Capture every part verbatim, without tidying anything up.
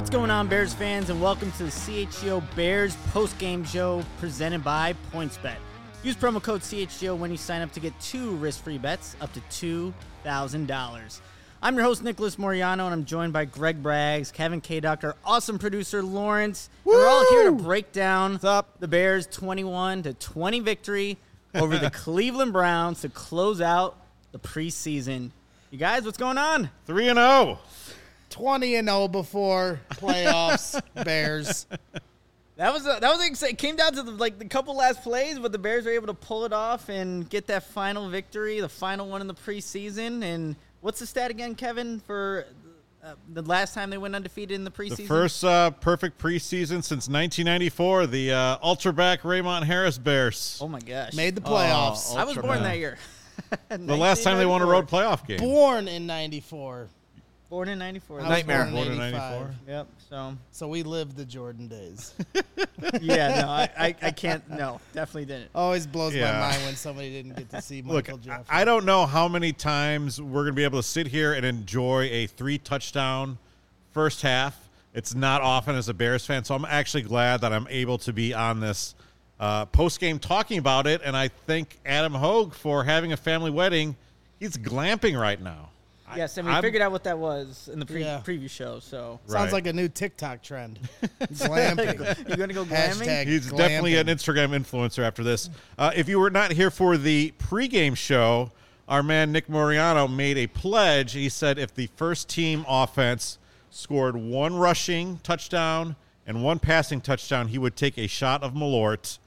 What's going on, Bears fans, and welcome to the C H G O Bears post-game show presented by PointsBet. Use promo code C H G O when you sign up to get two risk-free bets up to two thousand dollars. I'm your host, Nicholas Moriano, and I'm joined by Greg Braggs, Kevin K. Doctor, awesome producer Lawrence. And we're all here to break down What's up? the Bears' twenty-one to twenty victory over the Cleveland Browns to close out the preseason. You guys, what's going on? three and oh. twenty and oh before playoffs, Bears. That was a, that was ex- it came down to the, like the couple last plays, but the Bears were able to pull it off and get that final victory, the final one in the preseason. And what's the stat again, Kevin, for uh, the last time they went undefeated in the preseason? The first uh, perfect preseason since nineteen ninety-four, the uh, ultra-back Raymond Harris Bears. Oh my gosh, Made the playoffs. I was born man. that year. The last time they won a road playoff game. Born in ninety-four. Born in ninety-four. I was Nightmare. born Born in in ninety-four. eighty-five. Yep. So So we lived the Jordan days. yeah, no, I, I, I can't. No, definitely didn't. Always blows Yeah. my mind when somebody didn't get to see Look, Michael Jeffrey. I I don't know how many times we're going to be able to sit here and enjoy a three-touchdown first half. It's not often as a Bears fan, so I'm actually glad that I'm able to be on this uh, post-game talking about it, and I thank Adam Hogue for having a family wedding. He's glamping right now. Yes, and we I'm- figured out what that was in the pre- Yeah. preview show. So Sounds Right. like a new TikTok trend. Glamping. you gonna go glamming? Hashtag He's glamping. definitely an Instagram influencer after this. Uh, if you were not here for the pregame show, our man Nick Moriano made a pledge. He said if the first team offense scored one rushing touchdown and one passing touchdown, he would take a shot of Malort.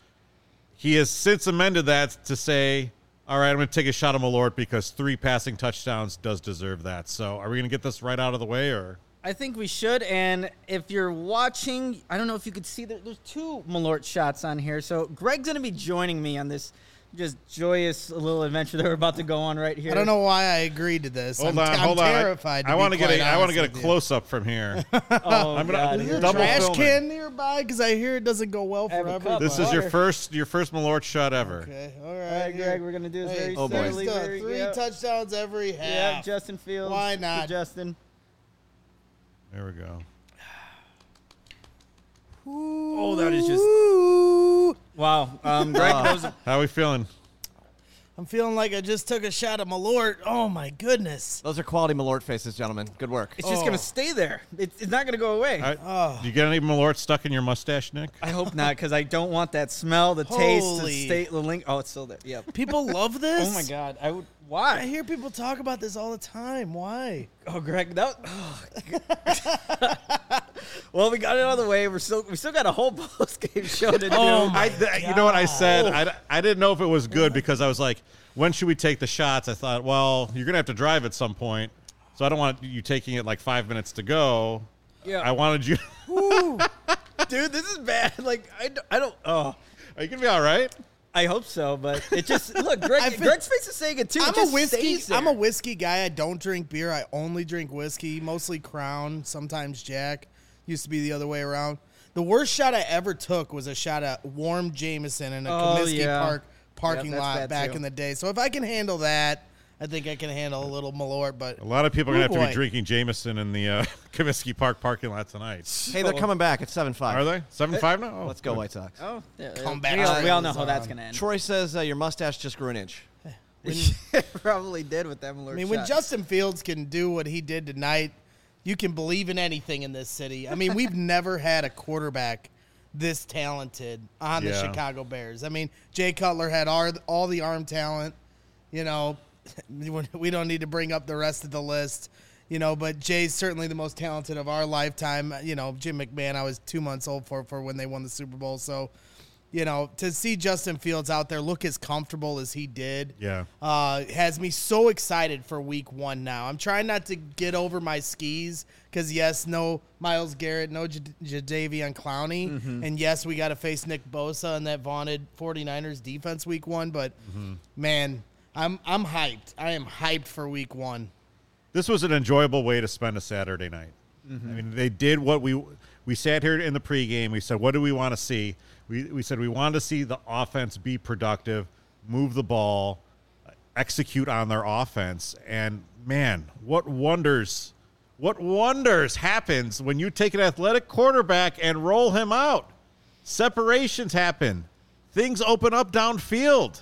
He has since amended that to say, all right, I'm going to take a shot of Malort because three passing touchdowns does deserve that. So are we going to get this right out of the way, or? I think we should, and if you're watching, I don't know if you could see, there, there's two Malort shots on here. So Greg's going to be joining me on this just joyous little adventure that we're about to go on right here. I don't know why I agreed to this. Hold I'm, on, I'm hold on. I- terrified. I, to want to be get a, quite I want to honest get a with you. close up from here. Oh, I'm gonna- God, Is here there we double go. Trash filming. can nearby because I hear it doesn't go well have for a everybody. cup. This is your Water. first your first Malort shot ever. Okay, all right. All right, here. Greg, we're going to do this Hey, very Oh, boy. slowly. three, very- three yeah. touchdowns every half. Yeah, Justin Fields. Why to not? Justin. There we go. Oh, that is just Ooh. wow. Um, Greg Wow. knows. How are we feeling? I'm feeling like I just took a shot of Malort. Oh my goodness. Those are quality Malort faces, gentlemen. Good work. It's just Oh. going to stay there. It's, it's not going to go away. I, Oh. Do you get any Malort stuck in your mustache, Nick? I hope not, because I don't want that smell, the taste, the Holy. state, the link. Oh, it's still there. Yep. People love this. Oh my God. I would. I Why? hear people talk about this all the time. Why? Oh, Greg. That. Oh. Well, we got it out of the way. We're still we still got a whole post game show to do. Oh, my I, th- you know what I said? I, I didn't know if it was good because I was like, when should we take the shots? I thought, well, you're going to have to drive at some point. So I don't want you taking it like five minutes to go. Yeah. I wanted you. Dude, this is bad. Like I, don't- I don't. Oh. Are you going to be all right? I hope so, but it just look. Greg, I feel- Greg's face is saying it too. It I'm just a whiskey. stays there. I'm a whiskey guy. I don't drink beer. I only drink whiskey, mostly Crown, sometimes Jack. Used to be the other way around. The worst shot I ever took was a shot at warm Jameson in a Oh, Comiskey yeah. Park parking Yep, that's lot bad, back too. in the day. So if I can handle that, I think I can handle a little Malort. But A lot of people are going to Ooh, have to boy. be drinking Jameson in the uh, Comiskey Park parking lot tonight. Hey, they're coming back at seven five. Are they? seven five now? Oh, Let's go, good. White Sox. Oh, yeah, Come we back all, we all know times how that's on. gonna end. Troy says uh, your mustache just grew an inch. Probably did with that Malort I mean, when shot. Justin Fields can do what he did tonight, you can believe in anything in this city. I mean, we've never had a quarterback this talented on the Yeah. Chicago Bears. I mean, Jay Cutler had our, all the arm talent. You know, we don't need to bring up the rest of the list. You know, but Jay's certainly the most talented of our lifetime. You know, Jim McMahon, I was two months old for for when they won the Super Bowl. So, you know, to see Justin Fields out there look as comfortable as he did, Yeah. uh, has me so excited for week one now. I'm trying not to get over my skis because, yes, no Myles Garrett, no J- Jadeveon Clowney. Mm-hmm. And, yes, we got to face Nick Bosa and that vaunted 49ers defense week one. But, Mm-hmm. man, I'm I'm hyped. I am hyped for week one. This was an enjoyable way to spend a Saturday night. Mm-hmm. I mean, they did what we we sat here in the pregame. We said, what do we want to see? We we said we wanted to see the offense be productive, move the ball, execute on their offense. And man, what wonders What wonders happens when you take an athletic quarterback and roll him out? Separations happen. Things open up downfield.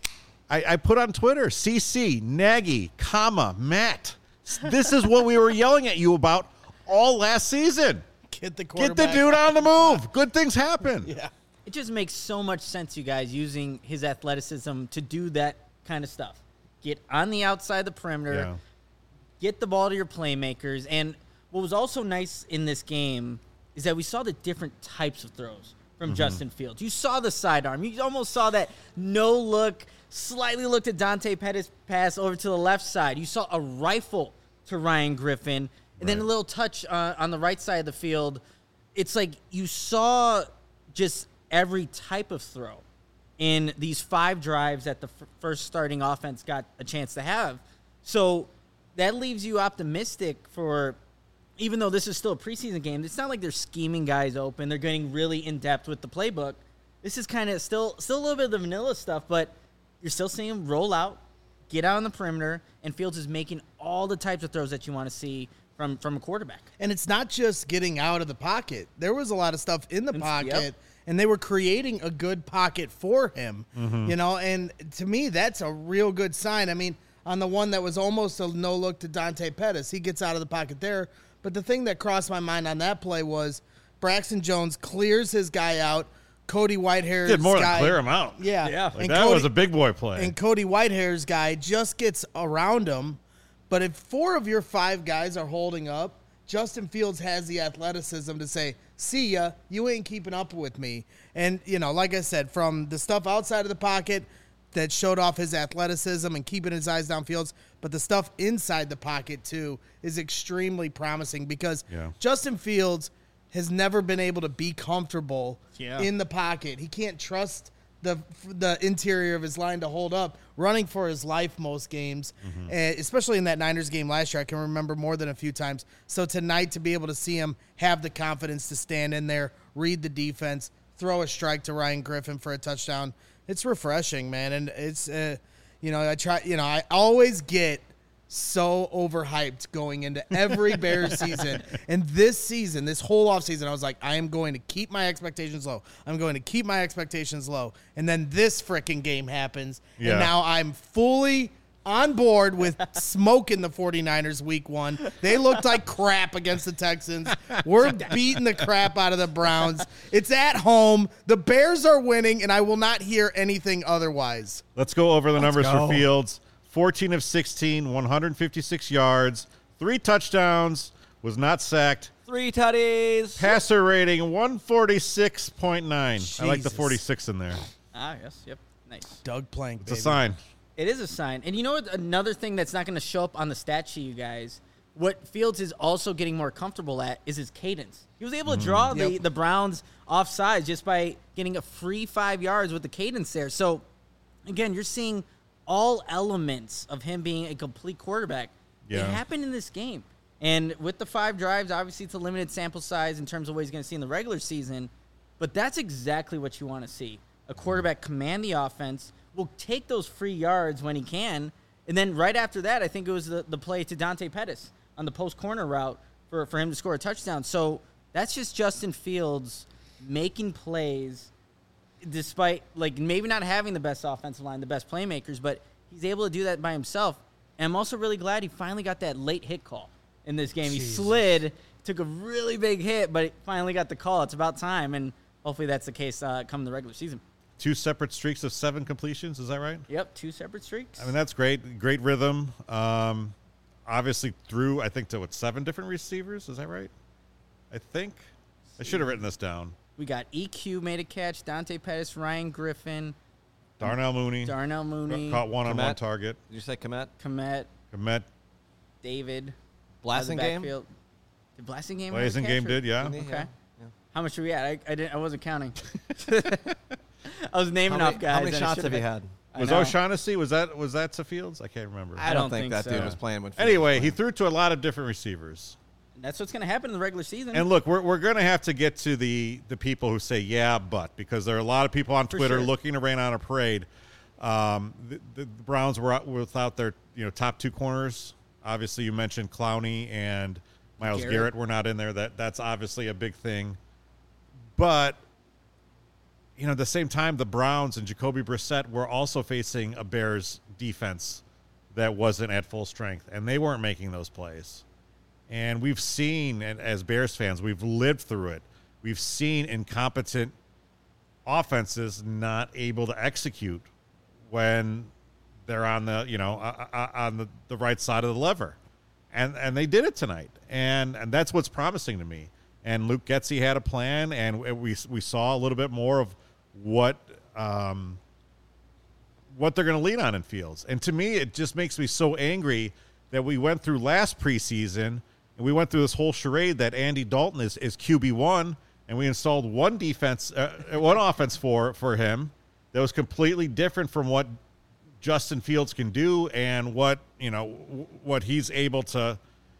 I, I put on Twitter, C C, Nagy, comma, Matt. This is what we were yelling at you about all last season. Get the Get quarterback. the dude on the move. Good things happen. Yeah. It just makes so much sense, you guys, using his athleticism to do that kind of stuff. Get on the outside of the perimeter, Yeah. get the ball to your playmakers. And what was also nice in this game is that we saw the different types of throws from Mm-hmm. Justin Fields. You saw the sidearm. You almost saw that no-look, slightly looked at Dante Pettis pass over to the left side. You saw a rifle to Ryan Griffin, and then a Right. little touch uh, on the right side of the field. It's like you saw just every type of throw in these five drives that the f- first starting offense got a chance to have. So that leaves you optimistic for, even though this is still a preseason game, it's not like they're scheming guys open. They're getting really in-depth with the playbook. This is kind of still still a little bit of the vanilla stuff, but you're still seeing them roll out, get out on the perimeter, and Fields is making all the types of throws that you want to see from, from a quarterback. And it's not just getting out of the pocket. There was a lot of stuff in the It's- pocket, yep. and they were creating a good pocket for him. You know, and to me, that's a real good sign. I mean, on the one that was almost a no look to Dante Pettis, he gets out of the pocket there. But the thing that crossed my mind on that play was Braxton Jones clears his guy out. Cody Whitehair's Did more guy, than clear him out. Yeah, Yeah. Like and that Cody, was a big boy play. and Cody Whitehair's guy just gets around him. But if four of your five guys are holding up, Justin Fields has the athleticism to say, see ya, you ain't keeping up with me. And, you know, like I said, from the stuff outside of the pocket that showed off his athleticism and keeping his eyes downfields, but the stuff inside the pocket, too, is extremely promising because Yeah. Justin Fields has never been able to be comfortable Yeah. in the pocket. He can't trust the the interior of his line to hold up, running for his life most games, uh, especially in that Niners game last year. I can remember more than a few times. So tonight, to be able to see him have the confidence to stand in there, read the defense, throw a strike to Ryan Griffin for a touchdown, it's refreshing, man. And it's, uh, you know, I try, you know, I always get so overhyped going into every Bears season. And this season, this whole offseason, I was like, I am going to keep my expectations low. I'm going to keep my expectations low. And then this freaking game happens. Yeah. And now I'm fully on board with smoking the 49ers week one. They looked like crap against the Texans. We're beating the crap out of the Browns. It's at home. The Bears are winning, and I will not hear anything otherwise. Let's go over the numbers go. for Fields. fourteen of sixteen, one hundred fifty-six yards, three touchdowns, was not sacked. Three tutties. Passer rating one forty-six point nine. I like the Jesus. forty-six in there. Ah, yes, yep, nice. Doug Plank, It's baby. a sign. It is a sign. And you know what? Another thing that's not going to show up on the stat sheet, you guys, what Fields is also getting more comfortable at is his cadence. He was able to draw the, Yep. the Browns offside just by getting a free five yards with the cadence there. So, again, you're seeing all elements of him being a complete quarterback. Yeah. It happened in this game. And with the five drives, obviously it's a limited sample size in terms of what he's going to see in the regular season. But that's exactly what you want to see. A quarterback command the offense, will take those free yards when he can. And then right after that, I think it was the, the play to Dante Pettis on the post corner route for, for him to score a touchdown. So that's just Justin Fields making plays despite, like, maybe not having the best offensive line, the best playmakers, but he's able to do that by himself. And I'm also really glad he finally got that late hit call in this game. Jesus. He slid, took a really big hit, but finally got the call. It's about time, and hopefully that's the case uh, come the regular season. Two separate streaks of seven completions. Is that right? Yep, two separate streaks. I mean, that's great. Great rhythm. Um, obviously threw, I think, to what, seven different receivers? Is that right? I think. I should have written this down. We got E Q made a catch, Dante Pettis, Ryan Griffin, Darnell Mooney. Darnell Mooney, Caught one on one Komet. target. Did you say Komet? Komet, Komet. David. Blasting out of the game? backfield. Did Blasting game? have a Blazing catch, game or- did, yeah. Didn't he? Okay. Yeah. Yeah. How much are we at? I, I didn't. I wasn't counting. I was How naming many, off guys. how many and I shots should have you had? I Was know. O'Shaughnessy, was that was that to Fields? I can't remember. I, I don't, don't think, think that so. dude was playing when Fields Anyway, was he playing. threw to a lot of different receivers. That's what's going to happen in the regular season. And look, we're we're going to have to get to the the people who say yeah, but because there are a lot of people on For Twitter sure. looking to rain on a parade. Um, the, the Browns were out without their you know top two corners. Obviously, you mentioned Clowney and Myles Garrett. Garrett were not in there. That that's obviously a big thing. But you know, at the same time, the Browns and Jacoby Brissett were also facing a Bears defense that wasn't at full strength, and they weren't making those plays. And we've seen, and as Bears fans, we've lived through it. We've seen incompetent offenses not able to execute when they're on the, you know, uh, uh, on the, the right side of the lever. And and they did it tonight. And and that's what's promising to me. And Luke Getsy had a plan, and we we saw a little bit more of what um, what they're going to lean on in Fields. And to me, it just makes me so angry that we went through last preseason and we went through this whole charade that Andy Dalton is, is Q B one, and we installed one defense, uh, one offense for for him that was completely different from what Justin Fields can do and what you know what he's able to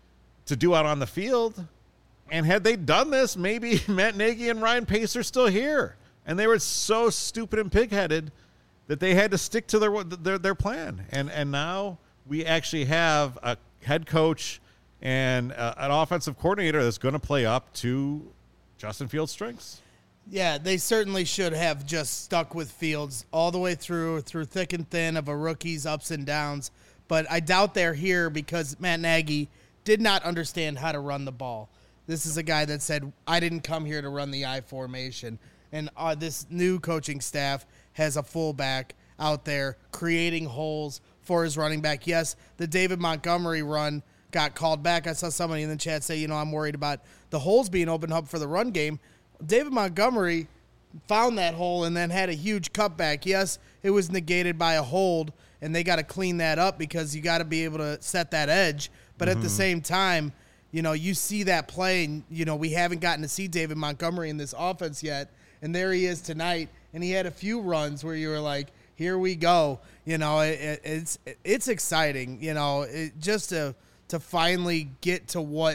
to do out on the field. And had they done this, maybe Matt Nagy and Ryan Pace are still here. And they were so stupid and pigheaded that they had to stick to their their, their plan. And and now we actually have a head coach and uh, an offensive coordinator that's going to play up to Justin Fields' strengths. Yeah, they certainly should have just stuck with Fields all the way through, through thick and thin of a rookie's ups and downs. But I doubt they're here because Matt Nagy did not understand how to run the ball. This is a guy that said, I didn't come here to run the I formation. And uh, this new coaching staff has a fullback out there creating holes for his running back. Yes, the David Montgomery run got called back. I saw somebody in the chat say, you know, I'm worried about the holes being opened up for the run game. David Montgomery found that hole and then had a huge cutback. Yes, it was negated by a hold, and they got to clean that up because you got to be able to set that edge. But mm-hmm. at the same time, you know, you see that play, and, you know, we haven't gotten to see David Montgomery in this offense yet, and there he is tonight, and he had a few runs where you were like, here we go. You know, it, it, it's it's exciting, you know, it, just to to finally get to what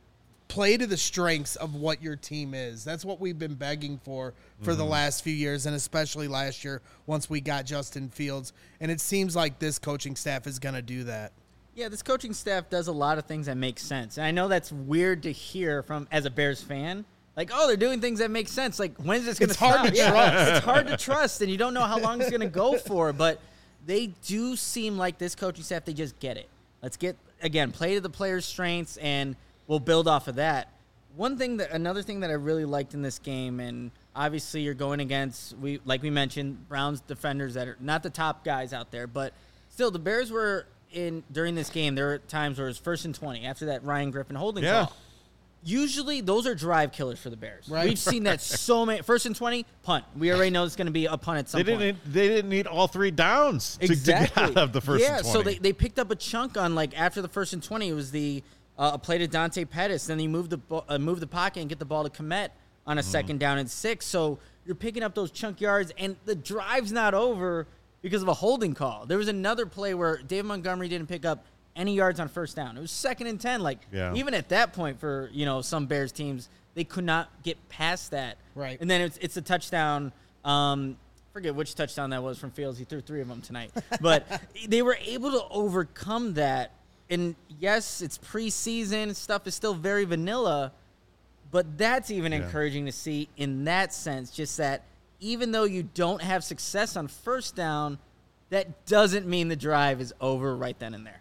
play to the strengths of what your team is. That's what we've been begging for for mm-hmm. the last few years, and especially last year once we got Justin Fields. And it seems like this coaching staff is going to do that. Yeah, this coaching staff does a lot of things that make sense. And I know that's weird to hear from as a Bears fan. Like, oh, they're doing things that make sense. Like, when is this going to stop? It's hard to yeah, trust. It's hard to trust, and you don't know how long it's going to go for. But they do seem like this coaching staff, they just get it. Let's get, again, play to the players' strengths, and we'll build off of that. One thing that, another thing that I really liked in this game, and obviously you're going against, we like we mentioned, Browns defenders that are not the top guys out there, but still the Bears were in during this game. There were times where it was first and twenty after that Ryan Griffin holding yeah. call. Usually those are drive killers for the Bears. Right. We've seen that so many. First and twenty, punt. We already know it's going to be a punt at some They point. didn't. They didn't need all three downs to, Exactly. to get out of the first yeah, and twenty. so they, they picked up a chunk on, like, after the first and twenty, it was the uh, a play to Dante Pettis. Then he moved the bo- uh, moved the pocket and get the ball to Kmet on a mm. second down and six. So you're picking up those chunk yards, and the drive's not over because of a holding call. There was another play where David Montgomery didn't pick up any yards on first down. It was second and ten. Like, yeah. even at that point for, you know, some Bears teams, they could not get past that. Right. And then it's it's a touchdown. Um, forget which touchdown that was from Fields. He threw three of them tonight. But they were able to overcome that. And, yes, it's preseason. Stuff is still very vanilla. But that's even yeah. encouraging to see in that sense, just that even though you don't have success on first down, that doesn't mean the drive is over right then and there.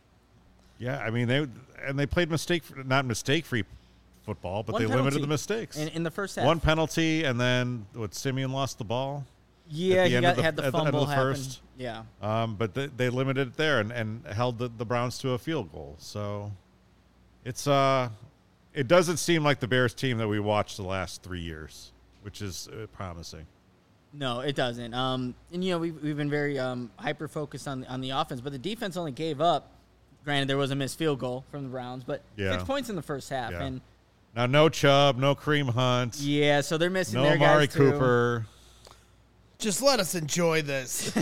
Yeah, I mean, they and they played mistake, not mistake-free football, but One they penalty limited the mistakes. in, in the first half. One penalty, and then what? Simeon lost the ball. Yeah, at the he end got, of the, had the at fumble the end of the happen. first. Yeah. Um, but they, they limited it there and, and held the, the Browns to a field goal. So it's uh, it doesn't seem like the Bears team that we watched the last three years, which is uh, promising. No, it doesn't. Um, and you know we've we've been very um hyper focused on on the offense, but the defense only gave up. Granted, there was a missed field goal from the Browns, but yeah. six points in the first half. Yeah. And now no Chubb, no Kareem Hunt, yeah, so they're missing no their Amari guys too. Cooper. Just let us enjoy this.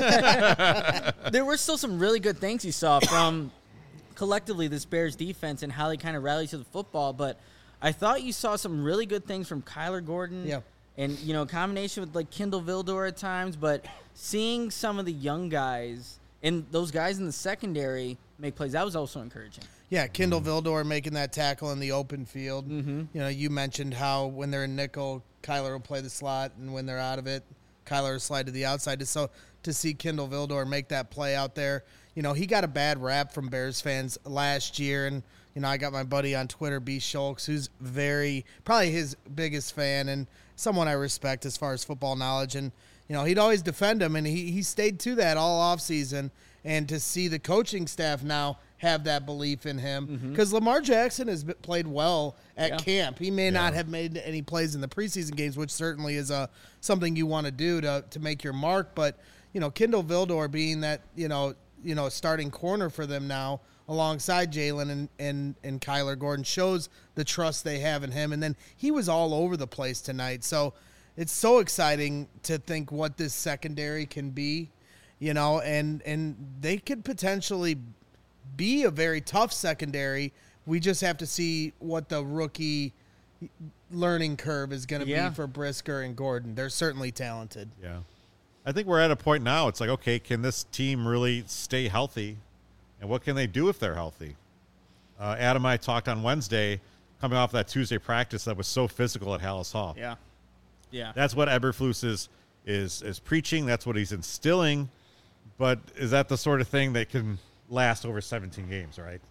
There were still some really good things you saw from collectively this Bears defense and how they kind of rallied to the football, but I thought you saw some really good things from Kyler Gordon. Yeah. And, you know, a combination with, like, Kindle Vildor at times, but seeing some of the young guys and those guys in the secondary make plays. That was also encouraging. Yeah, Kindle Vildor making that tackle in the open field. Mm-hmm. You know, you mentioned how when they're in nickel, Kyler will play the slot, and when they're out of it, Kyler will slide to the outside. So to see Kindle Vildor make that play out there, you know, he got a bad rap from Bears fans last year, and you know, I got my buddy on Twitter, B. Schultz, who's very probably his biggest fan and someone I respect as far as football knowledge, and you know, he'd always defend him, and he he stayed to that all offseason. And to see the coaching staff now have that belief in him, because mm-hmm. Lamar Jackson has been, played well at yeah. camp. He may yeah. not have made any plays in the preseason games, which certainly is a something you want to do to to make your mark. But you know, Kindle Vildor being that you know you know starting corner for them now, alongside Jalen and and and Kyler Gordon, shows the trust they have in him. And then he was all over the place tonight, so it's so exciting to think what this secondary can be. You know, and and they could potentially be a very tough secondary. We just have to see what the rookie learning curve is going to yeah. be for Brisker and Gordon. They're certainly talented. Yeah. I think we're at a point now. It's like, okay, can this team really stay healthy? And what can they do if they're healthy? Uh, Adam and I talked on Wednesday, coming off that Tuesday practice that was so physical at Hallis Hall. Yeah. Yeah. That's what Eberflus is, is, is preaching. That's what he's instilling. But is that the sort of thing that can last over seventeen games, right?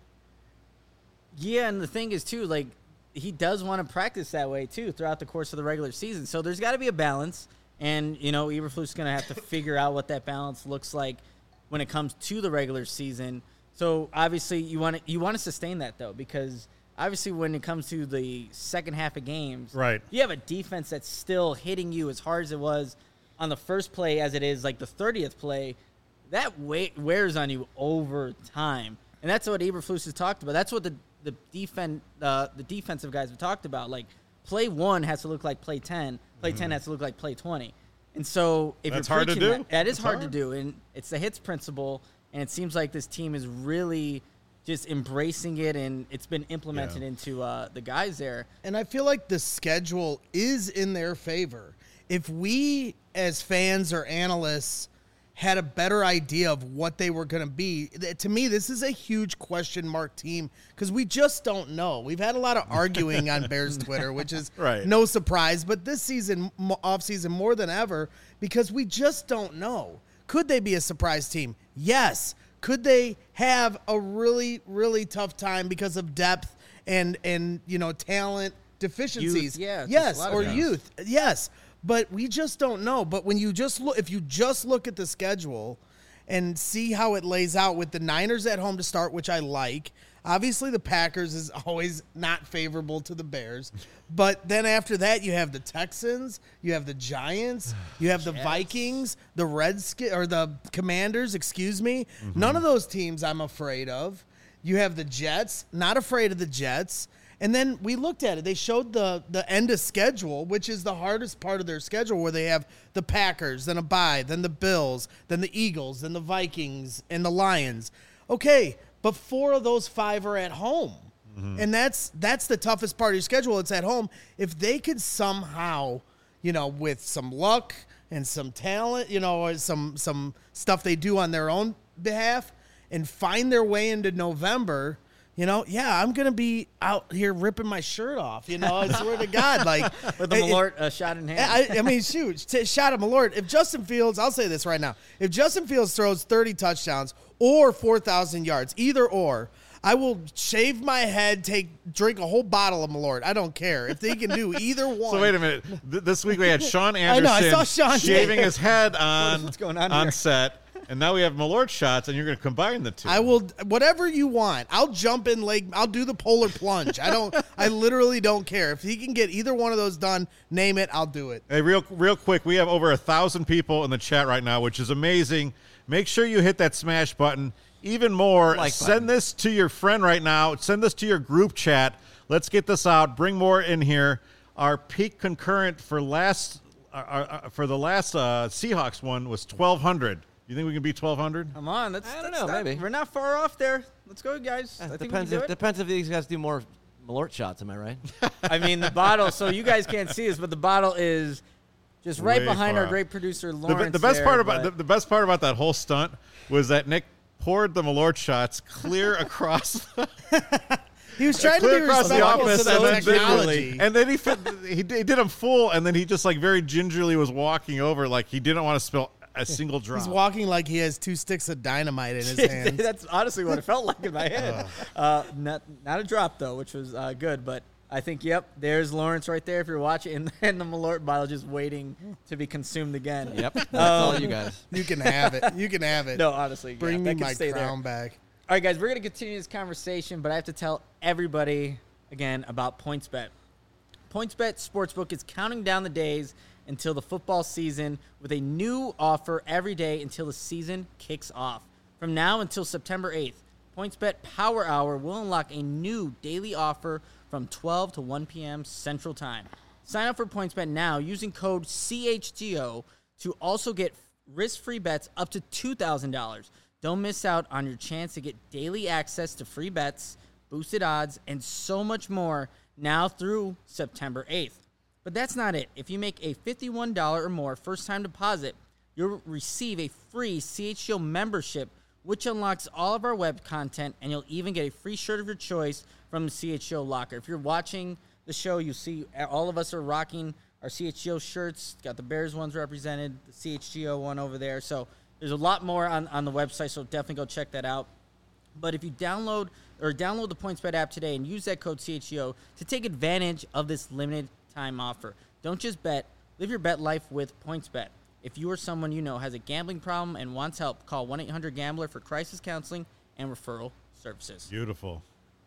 Yeah, and the thing is, too, like, he does want to practice that way, too, throughout the course of the regular season. So there's got to be a balance, and, you know, Eberflus is going to have to figure out what that balance looks like when it comes to the regular season. So, obviously, you want to you want to sustain that, though, because, obviously, when it comes to the second half of games, right, you have a defense that's still hitting you as hard as it was on the first play as it is, like, the thirtieth play. That weight wears on you over time, and that's what Eberflus has talked about. That's what the the defend uh, the defensive guys have talked about. Like, play one has to look like play ten. Play mm-hmm. ten has to look like play twenty. And so if that's you're hard to do. That, that is that's hard, hard to do, and it's the hits principle. And it seems like this team is really just embracing it, and it's been implemented yeah. into uh, the guys there. And I feel like the schedule is in their favor. If we, as fans or analysts, had a better idea of what they were going to be. To me, this is a huge question mark team because we just don't know. We've had a lot of arguing on Bears Twitter, which is right. no surprise. But this season, offseason, more than ever, because we just don't know. Could they be a surprise team? Yes. Could they have a really, really tough time because of depth and, and you know, talent deficiencies? Youth, yeah, yes, or guys. youth. Yes. But we just don't know. But when you just look, if you just look at the schedule and see how it lays out with the Niners at home to start, which I like. Obviously, the Packers is always not favorable to the Bears. But then after that, you have the Texans, you have the Giants, you have the Jets. Vikings, the Redskins, or the Commanders, excuse me. Mm-hmm. None of those teams I'm afraid of. You have the Jets, not afraid of the Jets. And then we looked at it. They showed the, the end of schedule, which is the hardest part of their schedule, where they have the Packers, then a bye, then the Bills, then the Eagles, then the Vikings, and the Lions. Okay, but four of those five are at home. Mm-hmm. And that's that's the toughest part of your schedule. It's at home. If they could somehow, you know, with some luck and some talent, you know, or some some stuff they do on their own behalf and find their way into November – you know, yeah, I'm going to be out here ripping my shirt off, you know, I swear to God. Like, with the Malort uh, shot in hand. I, I mean, shoot, t- shot at Malort. If Justin Fields, I'll say this right now. If Justin Fields throws thirty touchdowns or four thousand yards, either or, I will shave my head, take drink a whole bottle of Malort. I don't care. If they can do either one. So wait a minute. Th- this week we had Sean Anderson I know, I saw Sean shaving his head on, What's going on on here? set. And now we have Malort shots, and you're going to combine the two. I will, whatever you want. I'll jump in Lake. I'll do the polar plunge. I don't. I literally don't care. If he can get either one of those done, name it. I'll do it. Hey, real, real quick, we have over a thousand people in the chat right now, which is amazing. Make sure you hit that smash button. Even more, Like send button. this to your friend right now. Send this to your group chat. Let's get this out. Bring more in here. Our peak concurrent for last, uh, uh, for the last uh, Seahawks one was twelve hundred. You think we can beat twelve hundred? Come on, that's, I don't that's know, not, maybe. We're not far off there. Let's go, guys. I think depends we can if do it. depends if these guys do more Malort shots. Am I right? I mean, the bottle, so you guys can't see this, but the bottle is just right Way behind far our out. great producer, The, Lawrence. the best there, part about the, but- the best part about that whole stunt was that Nick poured the Malort shots clear across the, He was trying to be clear across the respectful office, to and the then, technology. and then he fit, he did he did them full, and then he just like very gingerly was walking over, like he didn't want to spill a single drop. He's walking like he has two sticks of dynamite in his hands. That's honestly what it felt like in my head. Uh, not not a drop though, which was uh, good. But I think, yep, there's Lawrence right there if you're watching, and then the Malort bottle just waiting to be consumed again. Yep, that's all you guys. You can have it. You can have it. No, honestly, Bring yeah, me that can my stay crown there. back. All right, guys, we're going to continue this conversation, but I have to tell everybody, again, about PointsBet. PointsBet Sportsbook is counting down the days until the football season with a new offer every day until the season kicks off. From now until September eighth, PointsBet Power Hour will unlock a new daily offer from twelve to one p.m. Central Time. Sign up for PointsBet now using code C H G O to also get risk-free bets up to two thousand dollars. Don't miss out on your chance to get daily access to free bets, boosted odds, and so much more now through September eighth. But that's not it. If you make a fifty-one dollars or more first-time deposit, you'll receive a free C H G O membership, which unlocks all of our web content, and you'll even get a free shirt of your choice from the C H G O locker. If you're watching the show, you see all of us are rocking our C H G O shirts. Got the Bears ones represented, the C H G O one over there. So there's a lot more on, on the website, so definitely go check that out. But if you download or download the PointsBet app today and use that code C H G O to take advantage of this limited time offer. Don't just bet, live your bet life with PointsBet. If you or someone you know has a gambling problem and wants help, call one eight hundred gambler for crisis counseling and referral services. Beautiful.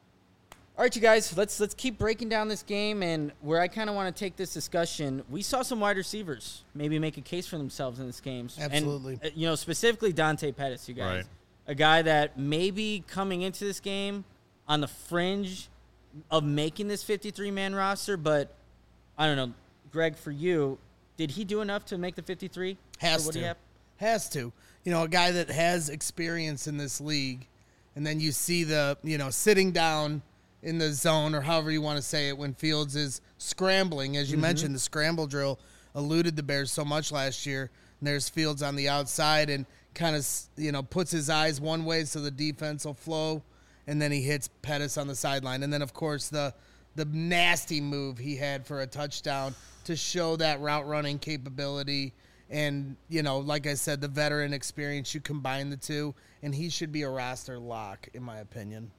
All right, you guys, let's let's keep breaking down this game, and where I kind of want to take this discussion, we saw some wide receivers maybe make a case for themselves in this game. Absolutely. And, uh, you know, specifically Dante Pettis, you guys. Right. A guy that maybe coming into this game on the fringe of making this fifty-three man roster, but I don't know, Greg, for you, did he do enough to make the fifty-three? Has what to. Do you have? Has to. You know, a guy that has experience in this league, and then you see the, you know, sitting down in the zone, or however you want to say it, when Fields is scrambling. As you mm-hmm. mentioned, the scramble drill eluded the Bears so much last year. And there's Fields on the outside and kind of, you know, puts his eyes one way so the defense will flow, and then he hits Pettis on the sideline. And then, of course, the the nasty move he had for a touchdown to show that route running capability. And, you know, like I said, the veteran experience, you combine the two, and he should be a roster lock, in my opinion.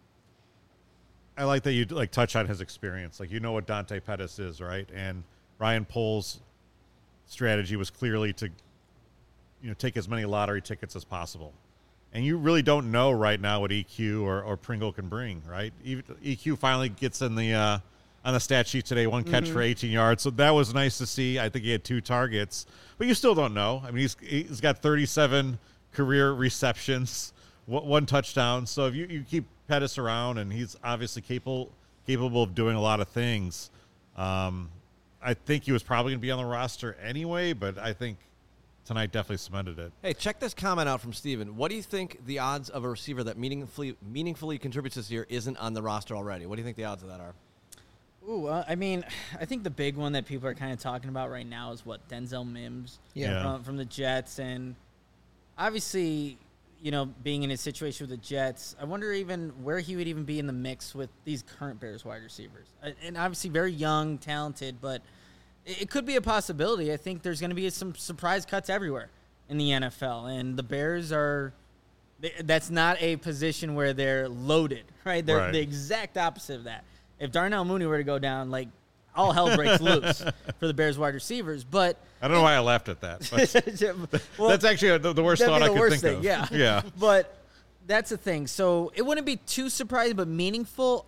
I like that you like touch on his experience. Like, you know what Dante Pettis is, right? And Ryan Poles' strategy was clearly to, you know, take as many lottery tickets as possible. And you really don't know right now what E Q or, or Pringle can bring, right? Even E Q finally gets in the uh, on the stat sheet today, one catch mm-hmm. for eighteen yards. So that was nice to see. I think he had two targets, but you still don't know. I mean, he's he's got thirty-seven career receptions, one touchdown. So if you, you keep Pettis around, and he's obviously capable capable of doing a lot of things. Um, I think he was probably going to be on the roster anyway, but I think tonight definitely cemented it. Hey, check this comment out from Steven. What do you think the odds of a receiver that meaningfully meaningfully contributes this year isn't on the roster already? What do you think the odds of that are? Ooh, uh, I mean, I think the big one that people are kind of talking about right now is what Denzel Mims yeah. from, from the Jets, and obviously, you know, being in his situation with the Jets, I wonder even where he would even be in the mix with these current Bears wide receivers. And obviously very young, talented, but it could be a possibility. I think there's going to be some surprise cuts everywhere in the N F L, and the Bears are – that's not a position where they're loaded, right? They're right. the exact opposite of that. If Darnell Mooney were to go down, like, all hell breaks loose for the Bears wide receivers. But I don't know why I laughed at that. But well, that's actually the, the worst thought the I could worst think thing, of. Yeah, yeah. But that's the thing. So it wouldn't be too surprising, but meaningful.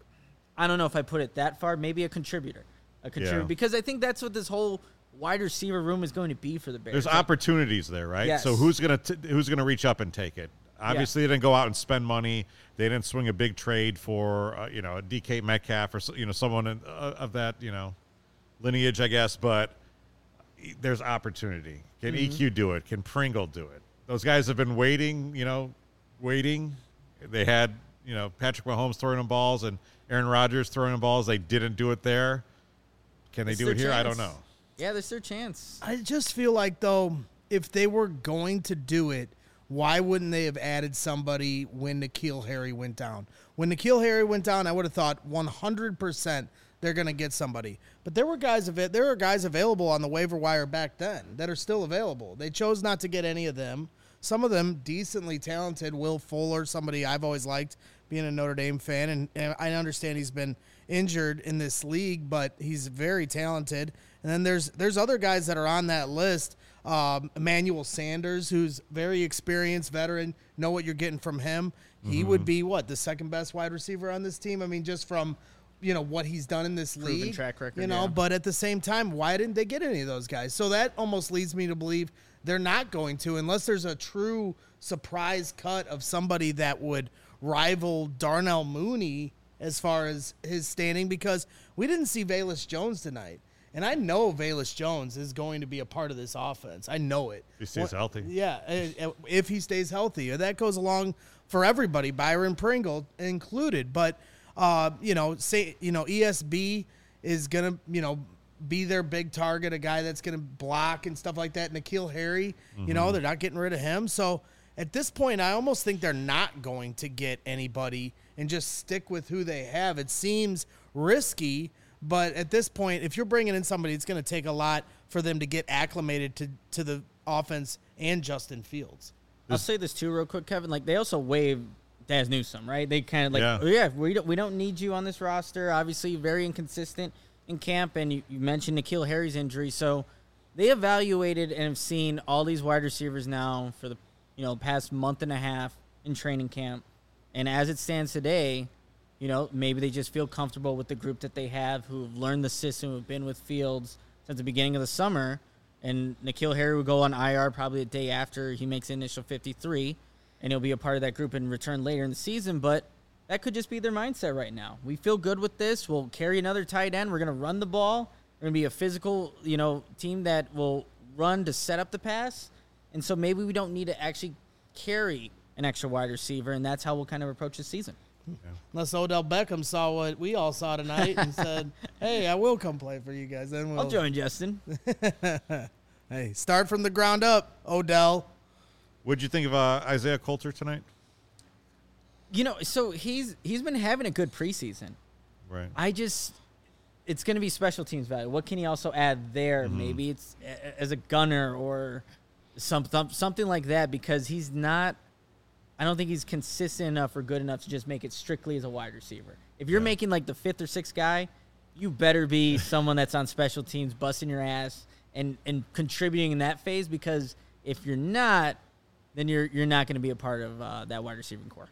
I don't know if I put it that far. Maybe a contributor, a contributor, Yeah. because I think that's what this whole wide receiver room is going to be for the Bears. There's like, opportunities opportunities there, right? Yes. So who's gonna t- who's gonna reach up and take it? Obviously, Yeah. they didn't go out and spend money. They didn't swing a big trade for uh, you know a D K Metcalf or so- you know someone in, uh, of that you know lineage, I guess. But there's opportunity. Can Mm-hmm. E Q do it? Can Pringle do it? Those guys have been waiting, you know, waiting. They had you know Patrick Mahomes throwing them balls and Aaron Rodgers throwing them balls. They didn't do it there. Can they It's do their it here? I chance. don't know. Yeah, there's their chance. I just feel like, though, if they were going to do it, why wouldn't they have added somebody when N'Keal Harry went down? When N'Keal Harry went down, I would have thought one hundred percent they're going to get somebody. But there were guys av- there were guys available on the waiver wire back then that are still available. They chose not to get any of them. Some of them decently talented. Will Fuller, somebody I've always liked, being a Notre Dame fan, and, and I understand he's been injured in this league, but he's very talented. And then there's there's other guys that are on that list. Um, Emmanuel Sanders, who's very experienced veteran, know what you're getting from him. He mm-hmm. would be what the second best wide receiver on this team. I mean, just from you know what he's done in this Proven league, track record, you know. yeah. But at the same time, why didn't they get any of those guys? So that almost leads me to believe they're not going to, unless there's a true surprise cut of somebody that would rival Darnell Mooney as far as his standing, because we didn't see Velus Jones tonight. And I know Velus Jones is going to be a part of this offense. I know it. If he stays What, healthy. Yeah, if he stays healthy. That goes along for everybody, Byron Pringle included. But, uh, you know, say you know E S B is going to, you know, be their big target, a guy that's going to block and stuff like that. N'Keal Harry, mm-hmm. you know, they're not getting rid of him. So at this point, I almost think they're not going to get anybody and just stick with who they have. It seems risky. But at this point, if you're bringing in somebody, it's going to take a lot for them to get acclimated to, to the offense and Justin Fields. I'll say this too real quick, Kevin. Like, they also waived Daz Newsome, right? They kind of like, yeah. oh, yeah, we don't, we don't need you on this roster. Obviously, very inconsistent in camp, and you, you mentioned N'Keal Harry's injury. So they evaluated and have seen all these wide receivers now for the you know past month and a half in training camp. And as it stands today, you know, maybe they just feel comfortable with the group that they have, who've learned the system, who've been with Fields since the beginning of the summer. And N'Keal Harry will go on I R probably a day after he makes the initial fifty-three, and he'll be a part of that group and return later in the season. But that could just be their mindset right now. We feel good with this. We'll carry another tight end. We're going to run the ball. We're going to be a physical, you know, team that will run to set up the pass. And so maybe we don't need to actually carry an extra wide receiver, and that's how we'll kind of approach the season. Yeah. Unless Odell Beckham saw what we all saw tonight and said, hey, I will come play for you guys. Then we'll I'll join Justin. Hey, start from the ground up, Odell. What'd you think of uh, Isaiah Coulter tonight? You know, so he's he's been having a good preseason. Right. I just, it's going to be special teams value. What can he also add there? Mm-hmm. Maybe it's a, as a gunner or some, something like that, because he's not, I don't think he's consistent enough or good enough to just make it strictly as a wide receiver. If you're yeah. making like the fifth or sixth guy, you better be someone that's on special teams, busting your ass and, and contributing in that phase, because if you're not, then you're you're not going to be a part of uh, that wide receiving core.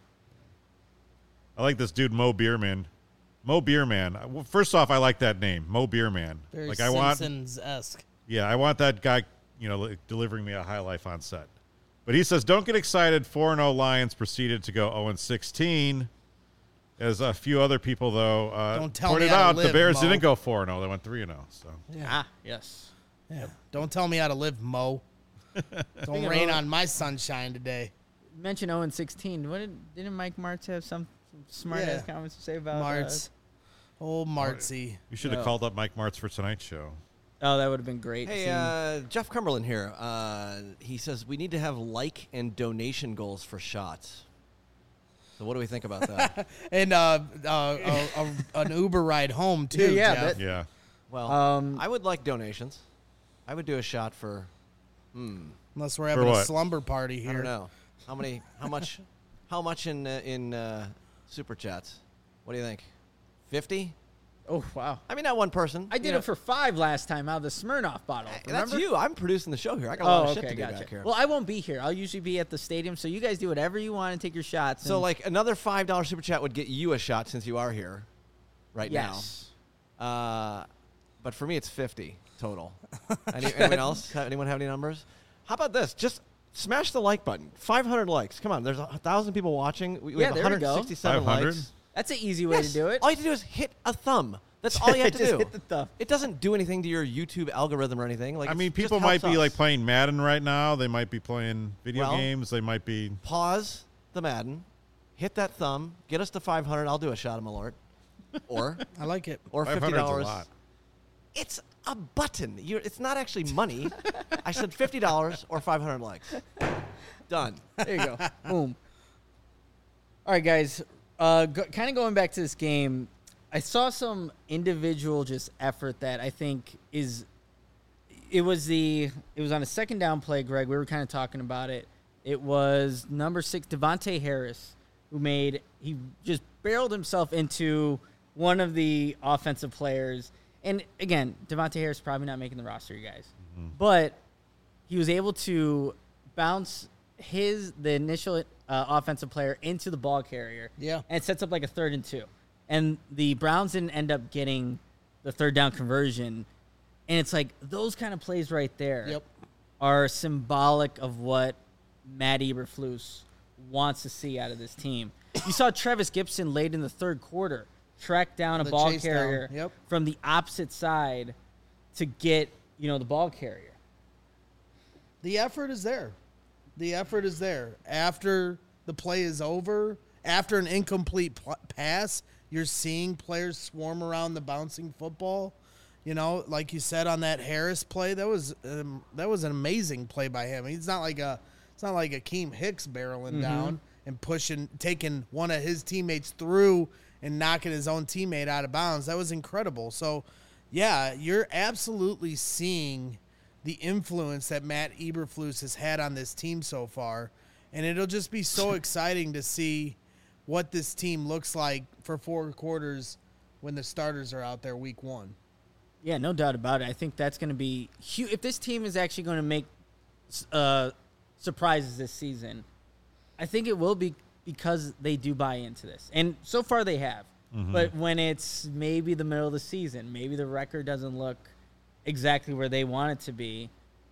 I like this dude, Mo Beerman. Mo Beerman. Well, first off, I like that name, Mo Beerman. Very like I want, Simpsons-esque. yeah, I want that guy, you know, like, delivering me a high life on set. But he says, don't get excited. four and oh Lions proceeded to go oh and sixteen. As a few other people, though, uh, Don't tell pointed me how to out, live, the Bears Mo. didn't go four and oh. They went three and oh. So Yeah. Ah, yes. Yeah. Don't tell me how to live, Mo. Don't of rain O- on my sunshine today. You mentioned oh and sixteen. What did, didn't Mike Martz have some, some smart Yeah. ass comments to say about Martz. Old Martzy. you should have No. called up Mike Martz for tonight's show. Uh, oh, that would have been great. Hey, seeing- uh, Jeff Cumberland here. Uh, he says we need to have like and donation goals for shots. So what do we think about that? And uh, uh, a, a, an Uber ride home, too, Yeah, yeah, Jeff. that- Yeah. Well, Um, I would like donations. I would do a shot for, hmm, Unless we're having a what? slumber party here. I don't know. How many, how much, how much in, uh, in uh, Super Chats? What do you think? fifty? oh, wow. I mean, not one person. I did you know. it for five last time out of the Smirnoff bottle. That's Remember? you. I'm producing the show here. I got a lot Oh, of shit okay, to do gotcha. back here. Well, I won't be here. I'll usually be at the stadium, so you guys do whatever you want and take your shots. so, and- like, another five dollar Super Chat would get you a shot since you are here right yes. now. Uh, but for me, it's fifty total. Any, anyone else? Have- Anyone have any numbers? How about this? Just smash the like button. five hundred likes. Come on. There's a thousand people watching. We, we Yeah, have there we one go. hundred sixty-seven five hundred? likes. That's an easy way Yes. to do it. All you have to do is hit a thumb. That's all you have to Just do. hit the thumb. It doesn't do anything to your YouTube algorithm or anything. Like I it's mean, just people might helps be like us. playing Madden right now. They might be playing video Well- games. They might be. Pause the Madden, hit that thumb, get us to five hundred. I'll do a shot of Malort, or I like it. or fifty 500's a dollars. lot. It's a button. You're, it's not actually money. I said fifty dollars or five hundred likes. Done. There you go. Boom. All right, guys. Uh, go, kind of going back to this game, I saw some individual just effort that I think is. It was the. It was on a second down play, Greg. We were kind of talking about it. It was number six, Devontae Harris, who made. He just barreled himself into one of the offensive players. And again, Devontae Harris is probably not making the roster, you guys. Mm-hmm. But he was able to bounce his the initial uh, offensive player into the ball carrier. Yeah. And it sets up like a third and two. And the Browns didn't end up getting the third down conversion. And it's like those kind of plays right there Yep. are symbolic of what Matt Eberflus wants to see out of this team. You saw Travis Gibson late in the third quarter track down a The ball chase carrier down. Yep. from the opposite side to get, you know, the ball carrier. The effort is there. The effort is there. After the play is over, after an incomplete pl- pass, you're seeing players swarm around the bouncing football. You know, like you said on that Harris play, that was um, that was an amazing play by him. He's not like a it's not like Akeem Hicks barreling Mm-hmm. down and pushing, taking one of his teammates through and knocking his own teammate out of bounds. That was incredible. So, yeah, you're absolutely seeing the influence that Matt Eberflus has had on this team so far, and it'll just be so exciting to see what this team looks like for four quarters when the starters are out there week one. Yeah, no doubt about it. I think that's going to be huge. If this team is actually going to make uh, surprises this season, I think it will be because they do buy into this. And so far they have. Mm-hmm. But when it's maybe the middle of the season, maybe the record doesn't look exactly where they want it to be,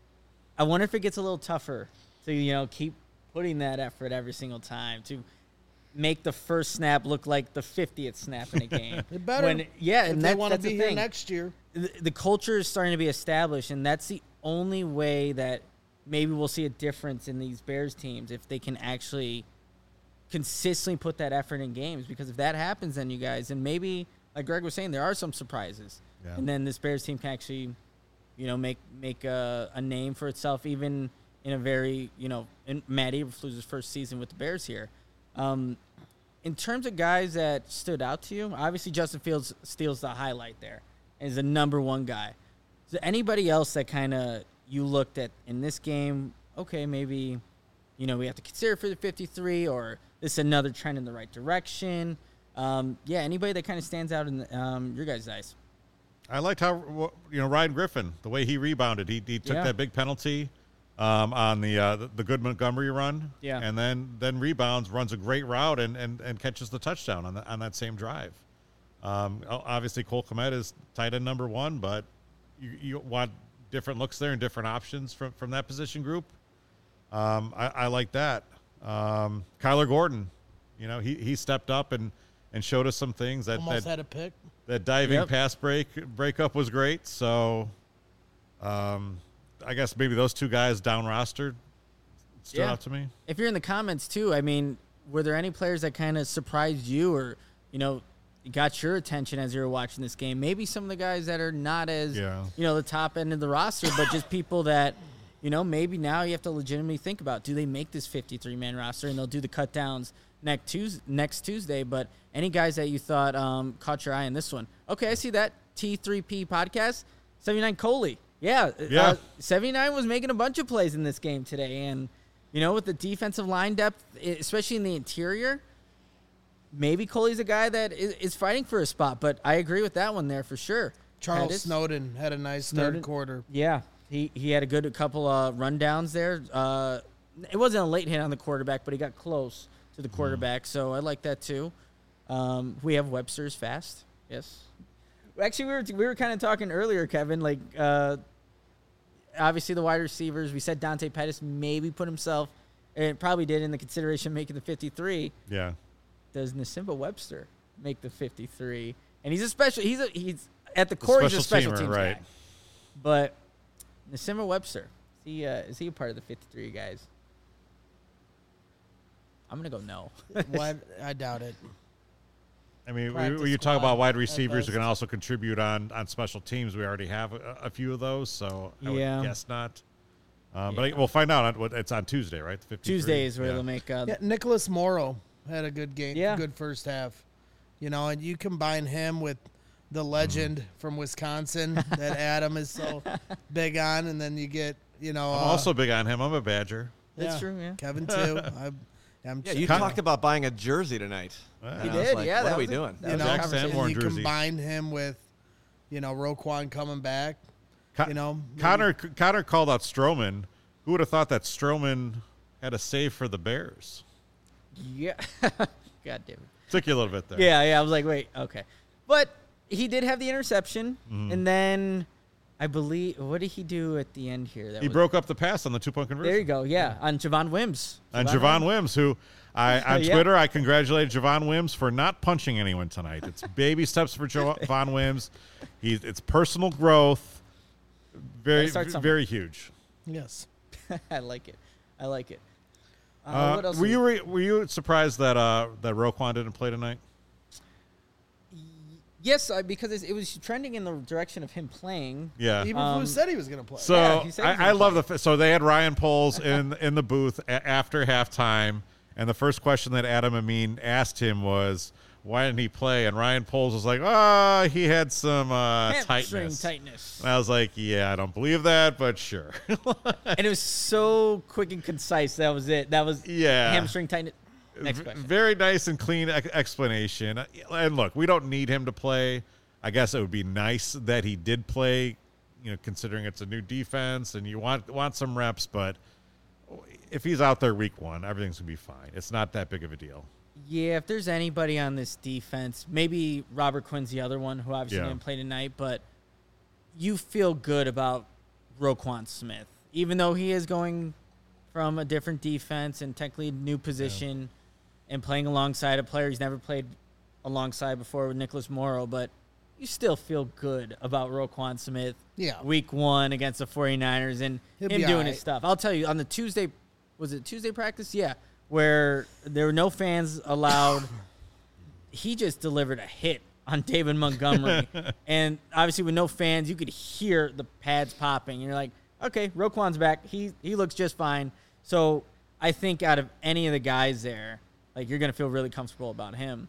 I wonder if it gets a little tougher to, you know, keep putting that effort every single time to make the first snap look like the fiftieth snap in a game. It better. When, yeah, if and they that, want to that's be the here thing. next year. The, the culture is starting to be established, and that's the only way that maybe we'll see a difference in these Bears teams if they can actually consistently put that effort in games. Because if that happens, then you guys, and maybe, like Greg was saying, there are some surprises. Yeah. And then this Bears team can actually, you know, make make a, a name for itself, even in a very, you know, in Matt Eberflus's first season with the Bears here. Um, in terms of guys that stood out to you, obviously Justin Fields steals the highlight there and is the number one guy. Is there anybody else that kind of you looked at in this game, okay, maybe, you know, we have to consider for the fifty-three, or this is another trend in the right direction? Um, yeah, anybody that kind of stands out in the, um, your guys' eyes? I liked how, you know, Ryan Griffin, the way he rebounded. He, he took Yeah. that big penalty um, on the, uh, the the good Montgomery run, Yeah. and then then rebounds, runs a great route, and, and, and catches the touchdown on the, on that same drive. Um, obviously, Cole Kmet is tight end number one, but you, you want different looks there and different options from, from that position group. Um, I, I like that. Um, Kyler Gordon, you know, he, he stepped up and, and showed us some things. That Almost that, had a pick. that diving Yep. pass break breakup was great. So, um, I guess maybe those two guys down rostered stood Yeah. out to me. If you're in the comments too, I mean, were there any players that kind of surprised you, or, you know, got your attention as you were watching this game? Maybe some of the guys that are not as, Yeah. you know, the top end of the roster, but just people that, you know, maybe now you have to legitimately think about, do they make this fifty-three man roster? And they'll do the cut downs next Tuesday, next Tuesday. But any guys that you thought um, caught your eye in this one? Okay, I see that. T three P podcast, seventy-nine Coley. Yeah, Yeah. Uh, seventy-nine was making a bunch of plays in this game today. And, you know, with the defensive line depth, especially in the interior, maybe Coley's a guy that is, is fighting for a spot. But I agree with that one there for sure. Charles Pettis. Snowden had a nice Snowden. third quarter. Yeah, he, he had a good couple uh, rundowns there. Uh, it wasn't a late hit on the quarterback, but he got close to the quarterback, so I like that too. Um, we have Webster's fast. Yes. Actually, we were we were kind of talking earlier, Kevin. Like, uh, obviously the wide receivers. We said Dante Pettis maybe put himself, and probably did in the consideration making the fifty-three. Yeah. Does Nasimba Webster make the fifty-three? And he's a special. He's a he's at the core. He's a special teamer, teams right. guy. But Nasimba Webster, is he uh, is he a part of the fifty-three guys? I'm gonna go no. What? I doubt it. I mean, we, Practice when you talk squad about wide at receivers who best. can also contribute on, on special teams, we already have a, a few of those, so I Yeah. would guess not. Um, but I, we'll find out. On, what it's on Tuesday, right? The fifty-three? Tuesday is where yeah. they'll make. Uh, Yeah, Nicholas Morrow had a good game, Yeah. good first half. You know, and you combine him with the legend from Wisconsin that Adam is so big on, and then you get, you know, I'm uh, also big on him. I'm a Badger. That's yeah, true, yeah. Kevin too. I, I'm Yeah, you Con- talked about buying a jersey tonight. Yeah. And He I was did, like, yeah, What that are we was a- doing? that you was know, a Jack conversation. Sanborn and you jersey. combine him with, you know, Roquan coming back. Co- You know, maybe- Connor Connor called out Stroman. Who would have thought that Stroman had a save for the Bears? Yeah. God damn it. Took you a little bit there. Yeah, yeah. I was like, wait, okay. But he did have the interception, Mm-hmm. and then I believe, what did he do at the end here? That He was- broke up the pass on the two-point conversion. There you go. Yeah, on Javon Wims. And Javon Wims, who I on Yeah. Twitter, I congratulated Javon Wims for not punching anyone tonight. It's baby steps for Javon Wims. He's it's personal growth, very Gotta start somewhere. very huge. yes. I like it. I like it. Uh, Uh, what else? were is- you re- were you surprised that uh, that Roquan didn't play tonight? Yes, uh, because it's- it was trending in the direction of him playing. Yeah. Eberflus Um, said he was going to play. So Yeah, he said he was I, I gonna love play. the f- so they had Ryan Poles in in the booth a- after halftime, and the first question that Adam Amin asked him was, "Why didn't he play?" And Ryan Poles was like, "Oh, he had some uh, Hamstring tightness." tightness. And I was like, "Yeah, I don't believe that, but sure." And it was so quick and concise. That was it. That was Yeah. hamstring tightness. Next V- question. Very nice and clean ex- explanation. And look, we don't need him to play. I guess it would be nice that he did play, you know, considering it's a new defense and you want want some reps. But if he's out there week one, everything's gonna be fine. It's not that big of a deal. Yeah, if there's anybody on this defense, maybe Robert Quinn's the other one who obviously Yeah. didn't play tonight, but you feel good about Roquan Smith, even though he is going from a different defense and technically new position and playing alongside a player he's never played alongside before with Nicholas Morrow, but you still feel good about Roquan Smith Yeah. week one against the 49ers and He'll him be doing all his right. stuff. I'll tell you, on the Tuesday, was it Tuesday practice? Yeah, where there were no fans allowed. He just delivered a hit on David Montgomery. And obviously with no fans, you could hear the pads popping. And you're like, okay, Roquan's back. He he looks just fine. So I think out of any of the guys there, like you're going to feel really comfortable about him.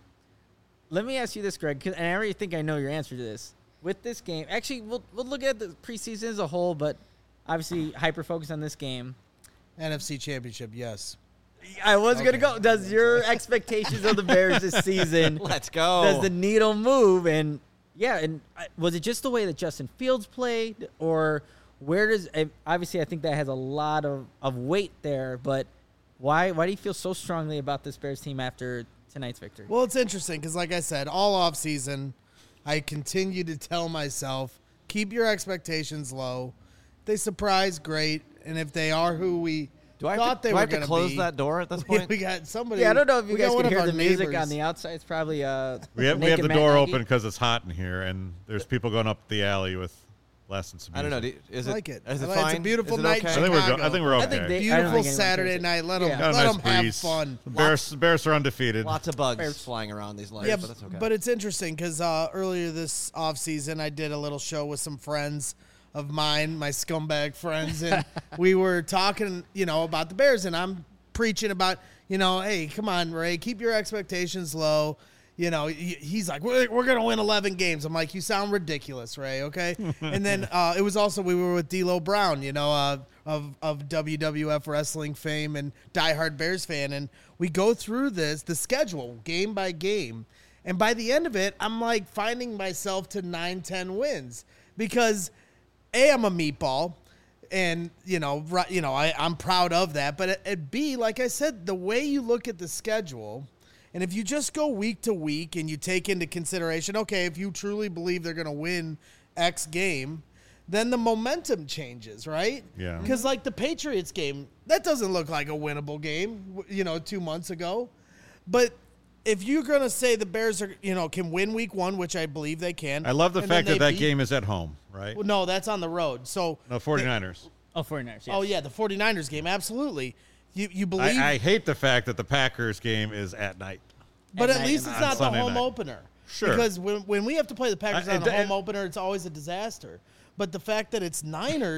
Let me ask you this, Greg, 'cause- and I already think I know your answer to this. With this game, actually, we'll, we'll look at the preseason as a whole, but obviously hyper-focus on this game. N F C Championship, yes. I was Okay. going to go. Does your expectations of the Bears this season, Let's go. does the needle move? And, yeah, and uh, was it just the way that Justin Fields played? Or where does and obviously I think that has a lot of, of weight there, but why why do you feel so strongly about this Bears team after tonight's victory? Well, it's interesting because, like I said, all off season, I continue to tell myself, keep your expectations low. If they surprise, great. And if they are who we do I thought have to, they do were I have to going close be, that door at this we, point? we got somebody. Yeah, I don't know if you we guys got one can of hear our the music neighbors. on the outside. It's probably uh. We have, we have Naked the Matt door Nagy. open because it's hot in here, and there's people going up the alley with lasting some I don't know. music. Do you- Is I it, like it. is I it like it. It's a fine? beautiful Is it night okay? I think we're go- I Chicago. think we're I okay. think they- I don't Beautiful think anyone Saturday cares. night. Let them, Yeah. Got a let nice them have breeze. fun. The Bears, Bears are undefeated. Lots of bugs Bears. flying around these lights, Yeah, but that's okay. but it's interesting because uh, earlier this off season, I did a little show with some friends of mine, my scumbag friends, and we were talking, you know, about the Bears, and I'm preaching about, you know, hey, come on, Ray, keep your expectations low. You know, he- he's like, we're, we're going to win eleven games. I'm like, you sound ridiculous, Ray, okay? And then uh, it was also, we were with D'Lo Brown, you know, uh, of, of W W F wrestling fame and diehard Bears fan. And we go through this, the schedule, game by game. And by the end of it, I'm like finding myself to nine, ten wins because, A, I'm a meatball. And, you know, right, you know, I, I'm proud of that. But at, at B, like I said, the way you look at the schedule – and if you just go week to week and you take into consideration, okay, if you truly believe they're going to win X game, then the momentum changes, right? Yeah. Because like the Patriots game, that doesn't look like a winnable game, you know, two months ago. But if you're going to say the Bears are, you know, can win week one, which I believe they can. I love the and then fact that they that beat- game is at home, right? Well, no, that's on the road. So No, 49ers. Oh, 49ers. Yes. Oh, yeah, the 49ers game, absolutely. You you believe I, I hate the fact that the Packers game is at night. But At at night least and it's on not the Sunday home night. opener. Sure. Because when, when we have to play the Packers I- on a and- home opener, it's always a disaster. But the fact that it's Niners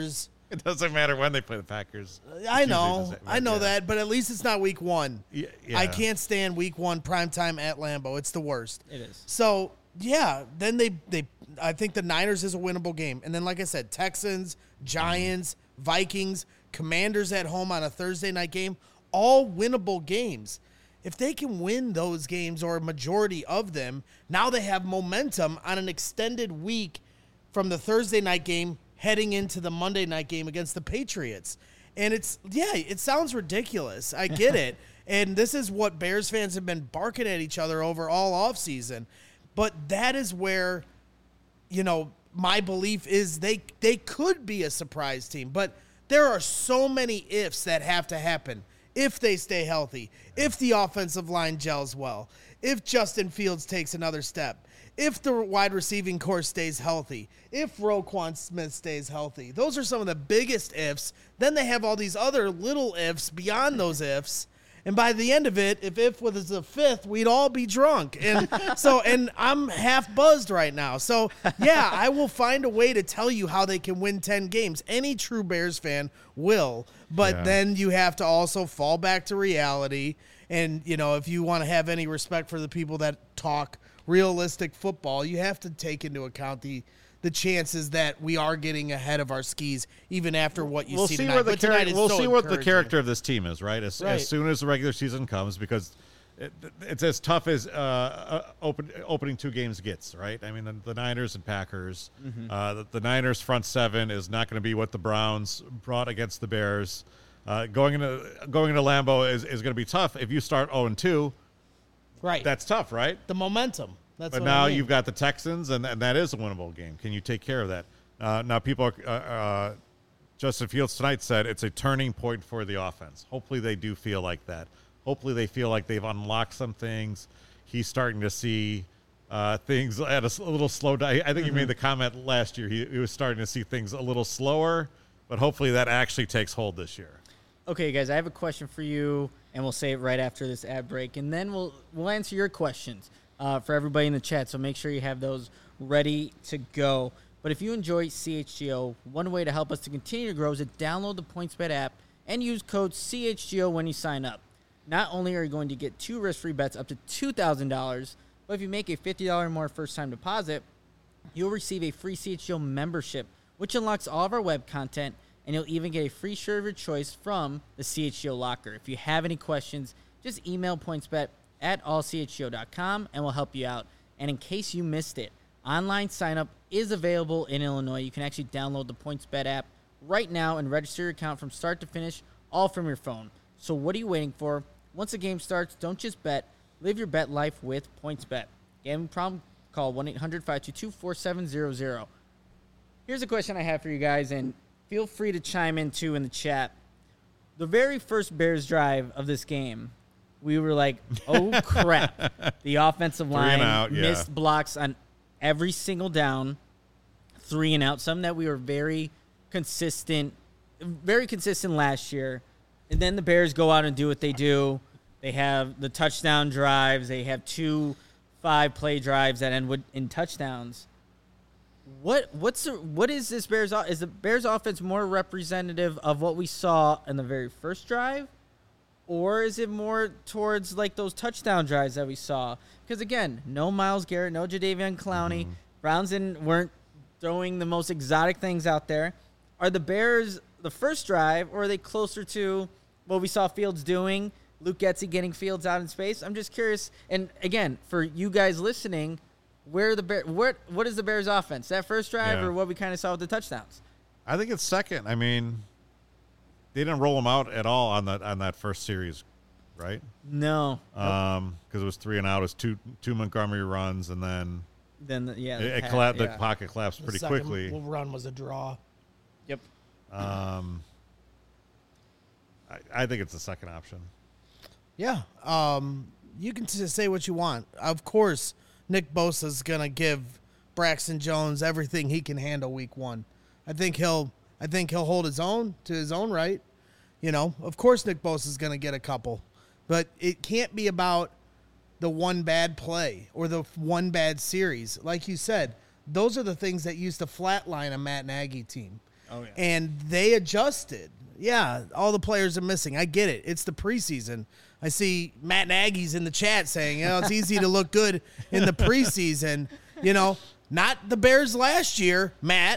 It doesn't matter when they play the Packers. I It's know, usually the same- I know yeah. that, but at least it's not week one. Yeah, I yeah. can't stand week one primetime at Lambeau. It's the worst. It is. So yeah, then they they I think the Niners is a winnable game, and then like I said, Texans, Giants, Vikings, Commanders at home on a Thursday night game, all winnable games. If they can win those games or a majority of them, now they have momentum on an extended week from the Thursday night game heading into the Monday night game against the Patriots. And it's, yeah, it sounds ridiculous. I get it. And this is what Bears fans have been barking at each other over all offseason. But that is where, you know, my belief is they they could be a surprise team. But there are so many ifs that have to happen. If they stay healthy, if the offensive line gels well, if Justin Fields takes another step, if the wide receiving core stays healthy, if Roquan Smith stays healthy. Those are some of the biggest ifs. Then they have all these other little ifs beyond those ifs. And by the end of it, if if was a fifth, we'd all be drunk. And so, and I'm half buzzed right now. So, yeah, I will find a way to tell you how they can win ten games. Any true Bears fan will. But Yeah. then you have to also fall back to reality. And, you know, if you want to have any respect for the people that talk realistic football, you have to take into account the the chances that we are getting ahead of our skis, even after what you we'll see see tonight. where the But tonight char- is we'll so see what the encouraging. character of this team is, right? As, Right. as soon as the regular season comes, because it, it's as tough as uh, uh, open, opening two games gets, right? I mean, the, the Niners and Packers. Mm-hmm. Uh, the, the Niners front seven is not going to be what the Browns brought against the Bears. Uh, going into going into Lambeau is, is going to be tough. If you start oh and two, Right. that's tough, right? the momentum. That's But what now I mean. you've got the Texans, and, and that is a winnable game. Can you take care of that? Uh, now, people are, uh, uh, Justin Fields tonight said it's a turning point for the offense. Hopefully they do feel like that. Hopefully they feel like they've unlocked some things. He's starting to see uh, things at a, s- a little slow down. I think Mm-hmm. he made the comment last year. He, he was starting to see things a little slower, but hopefully that actually takes hold this year. Okay, guys, I have a question for you, and we'll say it right after this ad break, and then we'll we'll answer your questions uh, for everybody in the chat. So make sure you have those ready to go. But if you enjoy C H G O, one way to help us to continue to grow is to download the PointsBet app and use code C H G O when you sign up. Not only are you going to get two risk-free bets up to two thousand dollars, but if you make a fifty dollars or more first-time deposit, you'll receive a free C H G O membership, which unlocks all of our web content, and you'll even get a free shirt of your choice from the C H G O locker. If you have any questions, just email PointsBet at all c h g o dot com, and we'll help you out. And in case you missed it, online sign-up is available in Illinois. You can actually download the PointsBet app right now and register your account from start to finish, all from your phone. So what are you waiting for? Once the game starts, don't just bet. Live your bet life with PointsBet. Gambling problem? Call one eight hundred five two two four seven zero zero. Here's a question I have for you guys, and feel free to chime in, too, in the chat. The very first Bears drive of this game, we were like, oh, crap. The offensive Three line and out, yeah. missed blocks on every single down, three and out, some that we were very consistent, very consistent last year. And then the Bears go out and do what they do. They have the touchdown drives. They have two five-play drives that end with, in touchdowns. What what's the, what is this Bears? o- Is the Bears offense more representative of what we saw in the very first drive, or is it more towards like those touchdown drives that we saw? Because again, no Myles Garrett, no Jadeveon Clowney. Browns didn't, weren't throwing the most exotic things out there. Are the Bears the first drive, or are they closer to what we saw Fields doing? Luke Getsy getting Fields out in space. I'm just curious. And again, for you guys listening, where the Bear, what what is the Bears' offense? That first drive, Yeah. or what we kind of saw with the touchdowns? I think it's second. I mean, they didn't roll them out at all on that on that first series, right? No. Um, because it was three and out. It was two two Montgomery runs, and then Then the, yeah, it, the it pass, colla- the yeah. pocket collapsed The pretty second quickly. run was a draw. Yep. Um, I, I think it's the second option. Yeah. Um, you can just say what you want. Of course, Nick Bosa's gonna give Braxton Jones everything he can handle week one. I think he'll I think he'll hold his own to his own right. You know, of course Nick Bosa's gonna get a couple. But it can't be about the one bad play or the one bad series. Like you said, those are the things that used to flatline a Matt Nagy team. Oh, yeah. And they adjusted. Yeah, all the players are missing. I get it. It's the preseason. I see Matt Nagy's in the chat saying, you know, it's easy to look good in the preseason. You know, not the Bears last year, Matt.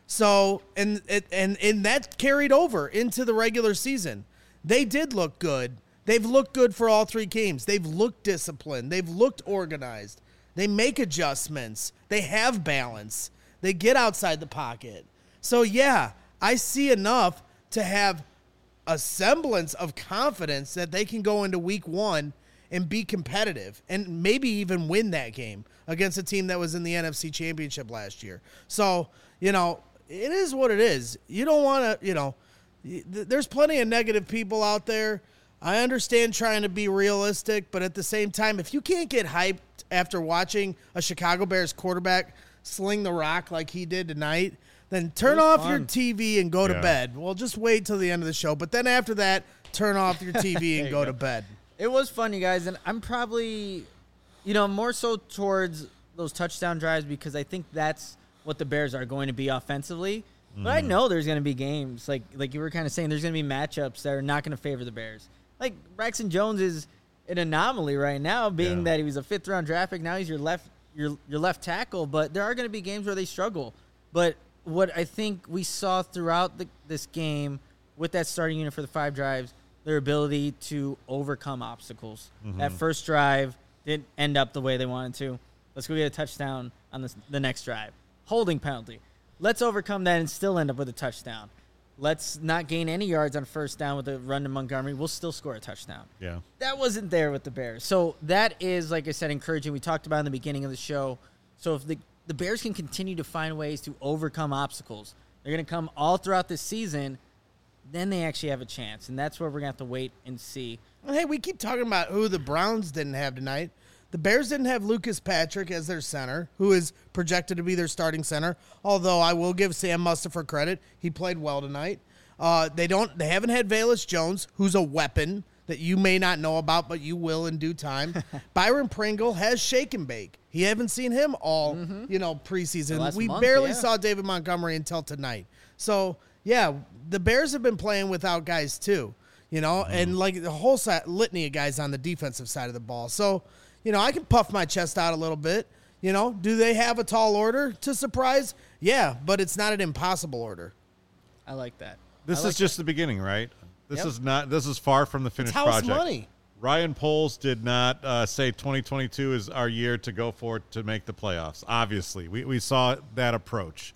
So, and, and, and that carried over into the regular season. They did look good. They've looked good for all three games. They've looked disciplined. They've looked organized. They make adjustments. They have balance. They get outside the pocket. So, yeah, I see enough to have a semblance of confidence that they can go into week one and be competitive and maybe even win that game against a team that was in the N F C Championship last year. So, you know, it is what it is. You don't want to, you know, there's plenty of negative people out there. I understand trying to be realistic, but at the same time, if you can't get hyped after watching a Chicago Bears quarterback sling the rock like he did tonight, then turn off fun. your T V and go yeah. to bed. Well, just wait till the end of the show. But then after that, turn off your T V and go, go to bed. It was fun, you guys, and I'm probably, you know, more so towards those touchdown drives because I think that's what the Bears are going to be offensively. Mm. But I know there's going to be games, like like you were kind of saying, there's going to be matchups that are not going to favor the Bears. Like Braxton Jones is an anomaly right now, being yeah. that he was a fifth-round draft pick. Now he's your left your your left tackle, but there are going to be games where they struggle. But what I think we saw throughout the, this game with that starting unit for the five drives, their ability to overcome obstacles. Mm-hmm. That first drive didn't end up the way they wanted to. Let's go get a touchdown on this, the next drive. Holding penalty. Let's overcome that and still end up with a touchdown. Let's not gain any yards on first down with a run to Montgomery. We'll still score a touchdown. Yeah. That wasn't there with the Bears. So that is, like I said, encouraging. We talked about in the beginning of the show. So if the The Bears can continue to find ways to overcome obstacles. They're going to come all throughout this season. Then they actually have a chance, and that's where we're going to have to wait and see. Well, hey, we keep talking about who the Browns didn't have tonight. The Bears didn't have Lucas Patrick as their center, who is projected to be their starting center, although I will give Sam Mustipher credit. He played well tonight. Uh, they don't. They haven't had Velus Jones, who's a weapon that you may not know about, but you will in due time. Byron Pringle has shake and bake. He haven't seen him all, mm-hmm. you know, preseason. We month, barely yeah. saw David Montgomery until tonight. So, yeah, the Bears have been playing without guys too, you know, mm-hmm. and like the whole side, litany of guys on the defensive side of the ball. So, you know, I can puff my chest out a little bit. You know, do they have a tall order to surprise? Yeah, but it's not an impossible order. I like that. This like is just that. the beginning, right? This Yep. is not. This is far from the finished It's house project. money. Ryan Poles did not uh, say twenty twenty-two is our year to go for it to make the playoffs. Obviously, we we saw that approach.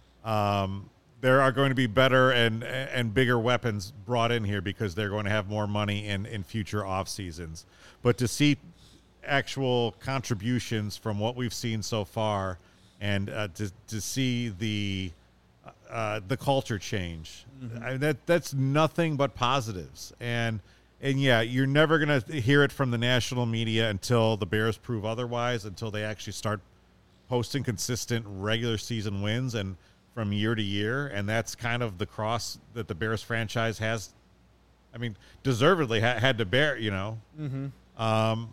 Um, there are going to be better and and bigger weapons brought in here because they're going to have more money in in future off seasons. But to see actual contributions from what we've seen so far, and uh, to to see the uh, the culture change, mm-hmm. I, that that's nothing but positives. And and yeah, you're never gonna hear it from the national media until the Bears prove otherwise. Until they actually start posting consistent regular season wins and from year to year, and that's kind of the cross that the Bears franchise has. I mean, deservedly ha- had to bear, you know. Mm-hmm. Um,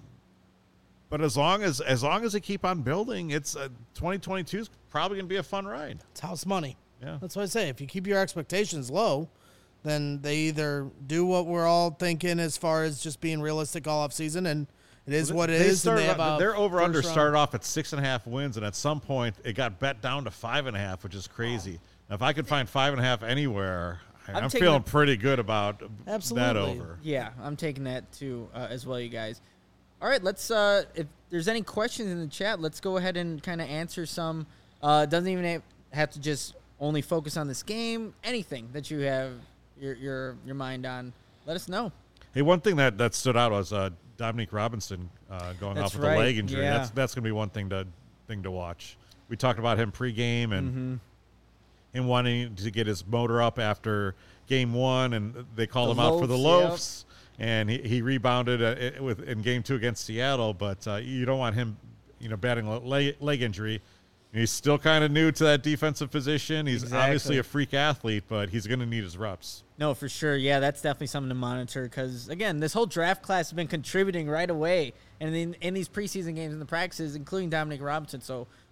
but as long as as long as they keep on building, it's uh, twenty twenty-two is probably gonna be a fun ride. It's house money. Yeah, that's what I say. If you keep your expectations low, then they either do what we're all thinking as far as just being realistic all off season, and it is well, what it they is. And they have off, a their over under round. started off at six and a half wins, and at some point it got bet down to five and a half, which is crazy. Oh. Now, if I could find five and a half anywhere, I'm, I'm feeling the, pretty good about absolutely. that over. Yeah, I'm taking that too uh, as well, you guys. All right, let's. Uh, if there's any questions in the chat, let's go ahead and kind of answer some. Uh, doesn't even have to just only focus on this game. Anything that you have your your your mind on, let us know. Hey, one thing that, that stood out was uh, Dominique Robinson uh, going that's off with right. a leg injury. Yeah. That's that's going to be one thing to thing to watch. We talked about him pregame and mm-hmm. him wanting to get his motor up after game one, and they called the him loafs, out for the loafs, yep. and he, he rebounded uh, with in game two against Seattle. But uh, you don't want him, you know, batting a leg, leg injury. He's still kind of new to that defensive position. He's exactly. obviously a freak athlete, but he's going to need his reps. No, for sure. Yeah, that's definitely something to monitor because, again, this whole draft class has been contributing right away and in, in these preseason games and the practices, including Dominic Robinson. So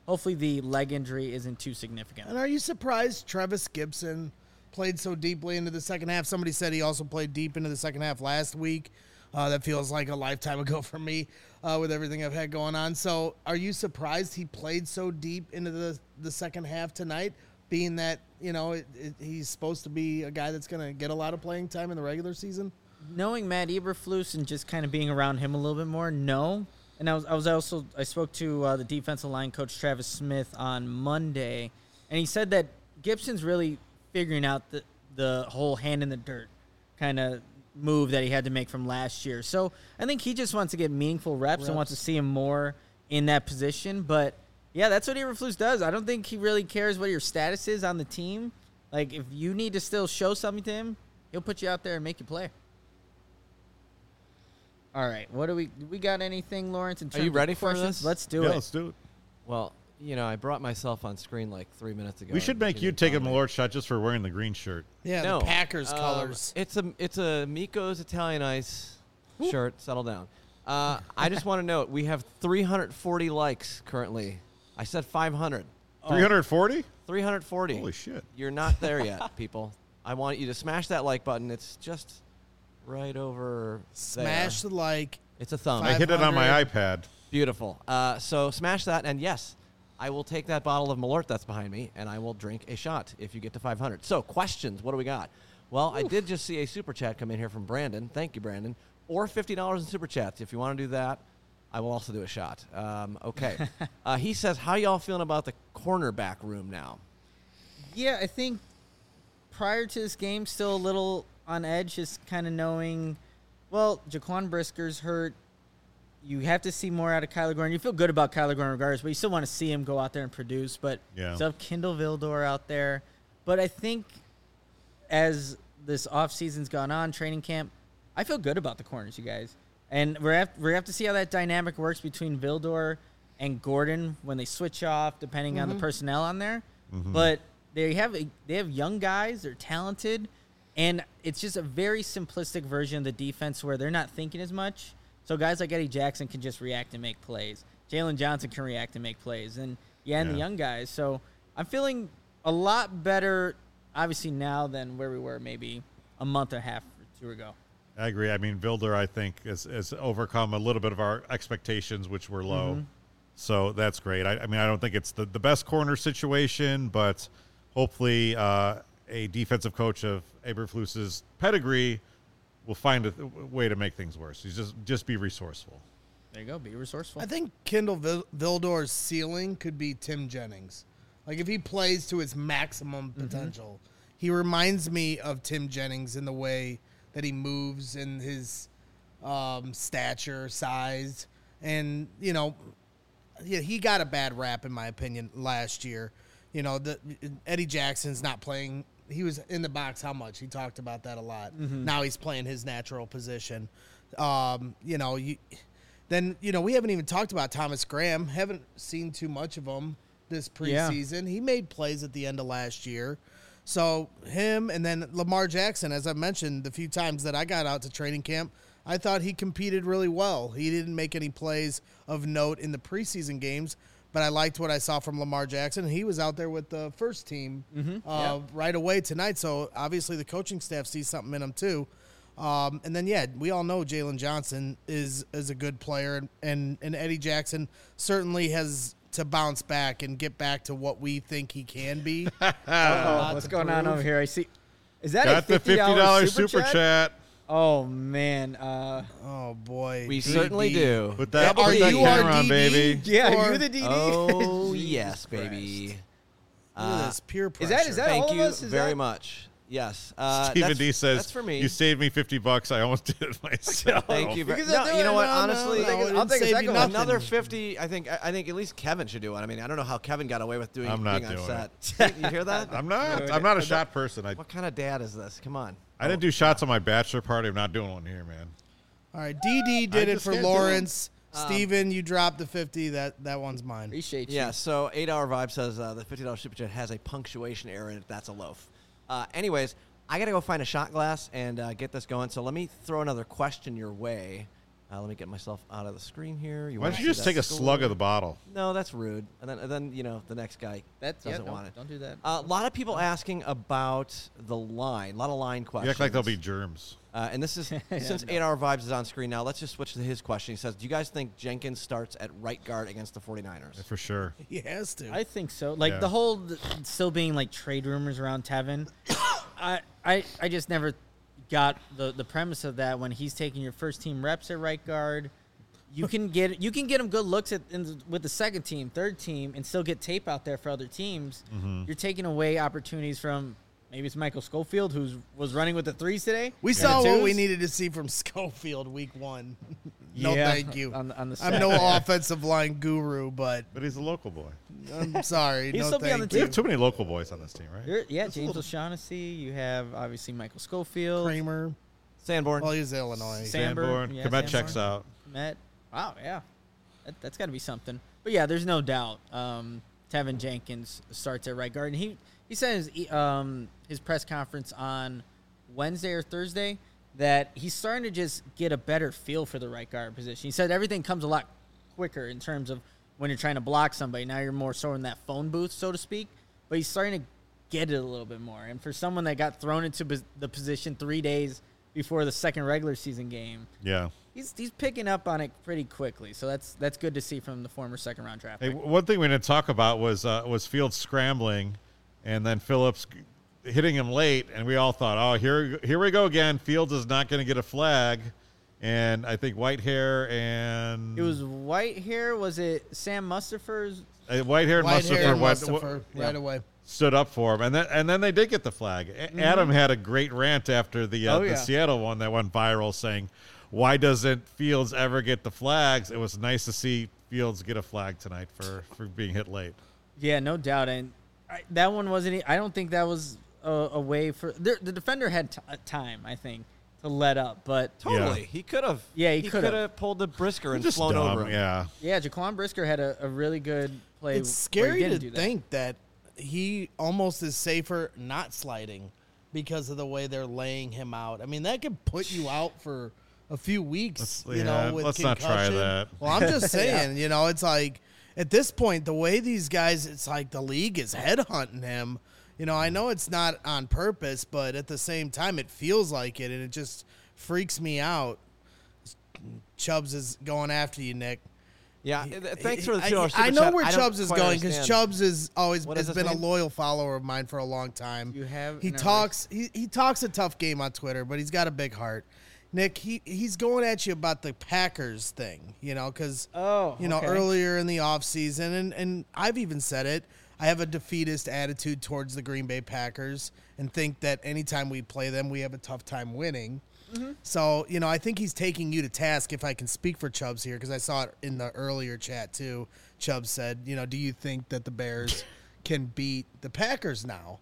hopefully the leg injury isn't too significant. And are you surprised Travis Gibson played so deeply into the second half? Somebody said he also played deep into the second half last week. Uh, that feels like a lifetime ago for me uh, with everything I've had going on. So are you surprised he played so deep into the, the second half tonight, being that, you know, it, it, he's supposed to be a guy that's going to get a lot of playing time in the regular season? Knowing Matt Eberflus and just kind of being around him a little bit more, no. And I was I was also I spoke to uh, the defensive line coach Travis Smith on Monday, and he said that Gibson's really figuring out the the whole hand in the dirt kind of move that he had to make from last year. So I think he just wants to get meaningful reps, reps. and wants to see him more in that position. But yeah, that's what Eberflus does. I don't think he really cares what your status is on the team. Like if you need to still show something to him, he'll put you out there and make you play. All right, what do we do we got anything, Lawrence? In terms Are you ready of for questions? this? Let's do yeah, it. let's do it. Well, you know, I brought myself on screen like three minutes ago. We should make you didn't take a follow me. Malort shot just for wearing the green shirt. Yeah, No. the Packers Um, colors. It's a it's a Miko's Italian Ice shirt. Settle down. Uh, I just want to note we have three hundred forty likes currently. I said five hundred. three hundred forty? three hundred forty. Holy shit. You're not there yet, people. I want you to smash that like button. It's just right over Smash there. the like. It's a thumb. I hit it on my five iPad. Beautiful. Uh, so smash that, and yes, I will take that bottle of Malort that's behind me, and I will drink a shot if you get to five hundred. So questions, what do we got? Well, Oof. I did just see a super chat come in here from Brandon. Thank you, Brandon. Or fifty dollars in super chats. If you want to do that, I will also do a shot. Um, okay. uh, he says, how y'all feeling about the cornerback room now? Yeah, I think prior to this game, still a little on edge, just kind of knowing, well, Jaquan Brisker's hurt. You have to see more out of Kyler Gordon. You feel good about Kyler Gordon regardless, but you still want to see him go out there and produce. But Yeah. still have Kindle Vildor out there. But I think as this offseason's gone on, training camp, I feel good about the corners, you guys. And we're have, we have to see how that dynamic works between Vildor and Gordon when they switch off, depending mm-hmm. on the personnel on there. Mm-hmm. But they have they have young guys. They're talented. And it's just a very simplistic version of the defense where they're not thinking as much. So guys like Eddie Jackson can just react and make plays. Jalen Johnson can react and make plays. And, yeah, and yeah. the young guys. So I'm feeling a lot better, obviously, now than where we were maybe a month and a half or two ago. I agree. I mean, Vilder, I think, has, has overcome a little bit of our expectations, which were low. Mm-hmm. So that's great. I, I mean, I don't think it's the, the best corner situation, but hopefully uh, a defensive coach of Eberflus's pedigree will find a th- way to make things worse. He's just just be resourceful. There you go. Be resourceful. I think Kindle Vil- Vildor's ceiling could be Tim Jennings. Like, if he plays to his maximum potential, mm-hmm. he reminds me of Tim Jennings in the way that he moves and his um, stature, size. And, you know, yeah, he got a bad rap, in my opinion, last year. You know, the Eddie Jackson's not playing. He was in the box how much? He talked about that a lot. Mm-hmm. Now he's playing his natural position. Um, you know, you, then, you know, we haven't even talked about Thomas Graham. Haven't seen too much of him this preseason. Yeah. He made plays at the end of last year. So him and then Lamar Jackson, as I mentioned the few times that I got out to training camp, I thought he competed really well. He didn't make any plays of note in the preseason games, but I liked what I saw from Lamar Jackson. He was out there with the first team mm-hmm. uh, yeah. right away tonight, so obviously the coaching staff sees something in him too. Um, and then, yeah, we all know Jalen Johnson is is a good player, and, and, and Eddie Jackson certainly has to bounce back and get back to what we think he can be. uh, what's going prove. on over here? I see. Is that Got a fifty dollars the fifty dollars super, super chat? chat? Oh, man. Uh, oh, boy. We D D. certainly do. Put that, are put that you camera our on, D D? baby. Yeah, or, are you the D D? Oh, yes, baby. Look Uh, at this peer pressure. Is that, is that Thank all you of us? Is very that? much. Yes. Uh, Stephen that's, D says, that's for me. you saved me fifty bucks. I almost did it myself. Thank you. Very, Because no, I'll do you know it. what? No, no, Honestly, no, I'll didn't take a save you second nothing. one. another fifty. I think. I think at least Kevin should do it. I mean, I don't know how Kevin got away with doing. I'm not being doing on set. You hear that? I'm not. I'm not a shot person. I, What kind of dad is this? Come on. I didn't do shots on my bachelor party. I'm not doing one here, man. All right, D D did I it just for can't do Lawrence. Um, Steven, you dropped the fifty. That that one's mine. Appreciate you. Yeah. So eight hour vibe says uh, the fifty dollars super chat has a punctuation error in it. That's a loaf. Uh, anyways. I got to go find a shot glass and uh, get this going. So let me throw another question your way. Uh, let me get myself out of the screen here. You Why wanna don't see you just that take a score? slug of the bottle? No, that's rude. And then, and then you know, the next guy That's doesn't yeah, want don't, it. don't do that. Uh, a lot of people asking about the line. A lot of line You questions. act like there'll be germs. Uh, and this is Yeah, since no. eight hour Vibes is on screen now. Let's just switch to his question. He says, "Do you guys think Jenkins starts at right guard against the 49ers?" For sure. He has to. I think so. Like Yeah. the whole th- still being like trade rumors around Tevin. I, I I just never got the the premise of that when he's taking your first team reps at right guard. You can get you can get him good looks at in the, with the second team, third team, and still get tape out there for other teams. Mm-hmm. You're taking away opportunities from maybe it's Michael Schofield who was running with the threes today. we and saw the what we twos. needed to see from Schofield week one. No, Yeah, thank you. On, the- on the I'm no offensive line guru, but But he's a local boy. I'm sorry. He'll no, still be on thank the We you. have too many local boys on this team, right? You're- yeah, James O'Shaughnessy. You have obviously Michael Schofield. Kramer. Sanborn. Well, he's Illinois. Sam- Sanborn. yeah, Komet Sanborn. checks out. Met. Wow, yeah. That, that's got to be something. But yeah, there's no doubt. Um, Tevin Jenkins starts at right guard, and he he said in his, um, his press conference on Wednesday or Thursday that he's starting to just get a better feel for the right guard position. He said everything comes a lot quicker in terms of when you're trying to block somebody. Now you're more so in that phone booth, so to speak. But he's starting to get it a little bit more. And for someone that got thrown into pos- the position three days before the second regular season game, Yeah. He's he's picking up on it pretty quickly, so that's that's good to see from the former second round draft Hey, pick. w- one thing we didn't talk about was uh, was Fields scrambling, and then Phillips g- hitting him late, and we all thought, oh, here here we go again. Fields is not going to get a flag, and I think Whitehair and It was Whitehair. Was it Sam Mustafer's? uh, Whitehair and White Mustafa hair, went- Mustafa, w- right yeah. away. stood up for him, and then and then they did get the flag. A- Adam had a great rant after the uh, Oh, the yeah. Seattle one that went viral, saying, "Why doesn't Fields ever get the flags?" It was nice to see Fields get a flag tonight for, for being hit late. Yeah, no doubt. And I, that one wasn't. e- I don't think that was a, a way for the, the defender had t- time. I think to let up, but Totally. Yeah. He could have. Yeah, he could've. could have pulled the Brisker and Just flown dumb, over him. yeah. yeah, Jaquan Brisker had a, a really good play. It's where scary he to didn't do that. think that he almost is safer not sliding because of the way they're laying him out. I mean, that could put you out for a few weeks. Let's- you yeah, know, with let's not try concussion. that. Well, I'm just saying, you know, it's like at this point, the way these guys, it's like the league is headhunting him. You know, I know it's not on purpose, but at the same time, it feels like it, and it just freaks me out. Chubbs is going after you, Nick. Yeah. He- uh, Thanks for the I- two dollar super I know chat. where don't Chubbs is quite going because understand. Chubbs has always What is has his been a name? loyal follower of mine for a long time. You have he no talks he, he talks a tough game on Twitter, but he's got a big heart. Nick, he he's going at you about the Packers thing, you know, because Oh, you know okay. earlier in the offseason, and and I've even said it. I have a defeatist attitude towards the Green Bay Packers and think that anytime we play them, we have a tough time winning. Mm-hmm. So, you know, I think he's taking you to task, if I can speak for Chubbs here, because I saw it in the earlier chat too. Chubbs said, you know, do you think that the Bears can beat the Packers now?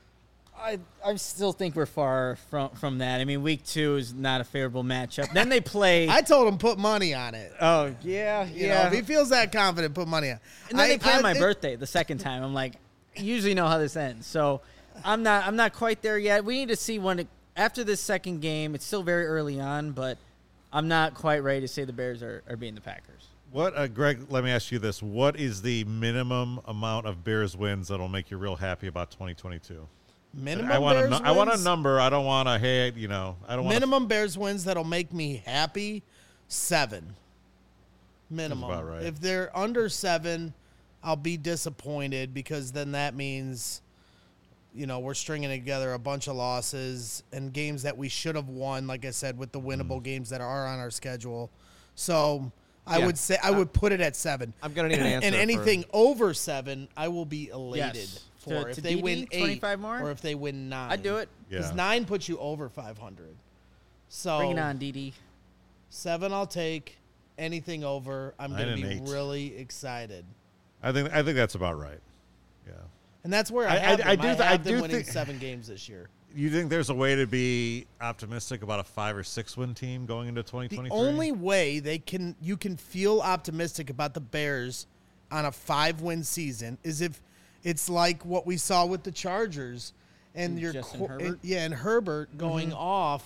I I still think we're far from from that. I mean, week two is not a favorable matchup. Then they play. I told him put money on it. oh yeah, You yeah. know, if he feels that confident, put money on it. And then I- they play I on my think- birthday the second time. I'm like, I usually know how this ends. So I'm not I'm not quite there yet. We need to see when it, after this second game. It's still very early on, but I'm not quite ready to say the Bears are, are beating the Packers. What, uh, Greg? Let me ask you this: what is the minimum amount of Bears wins that'll make you real happy about twenty twenty-two? Minimum I want Bears a, nu- I want a wins? number. I don't want a hey, you know, I don't want Minimum Bears wins that'll make me happy, seven. Minimum. about right. If they're under seven, I'll be disappointed because then that means, you know, we're stringing together a bunch of losses and games that we should have won, like I said, with the winnable Mm. games that are on our schedule. So I Yeah. would say I would put it at seven. I'm gonna need an answer And for- anything over seven, I will be elated Yes. for. To- if to they D D, win eight twenty-five more? or if they win nine. I'd do it. Because Yeah. nine puts you over five hundred. So Bring it on, D D. seven I'll take. Anything over, I'm Nine going to and be eight. really excited. I think I think that's about right. Yeah. And that's where I, I- have I- them. I I, do have th- I them do winning think- seven games this year. You think there's a way to be optimistic about a five or six win team going into twenty The twenty-three? only way they can you can feel optimistic about the Bears on a five-win season is if it's like what we saw with the Chargers and And your Justin qu- Herbert? and- yeah, and Herbert going off.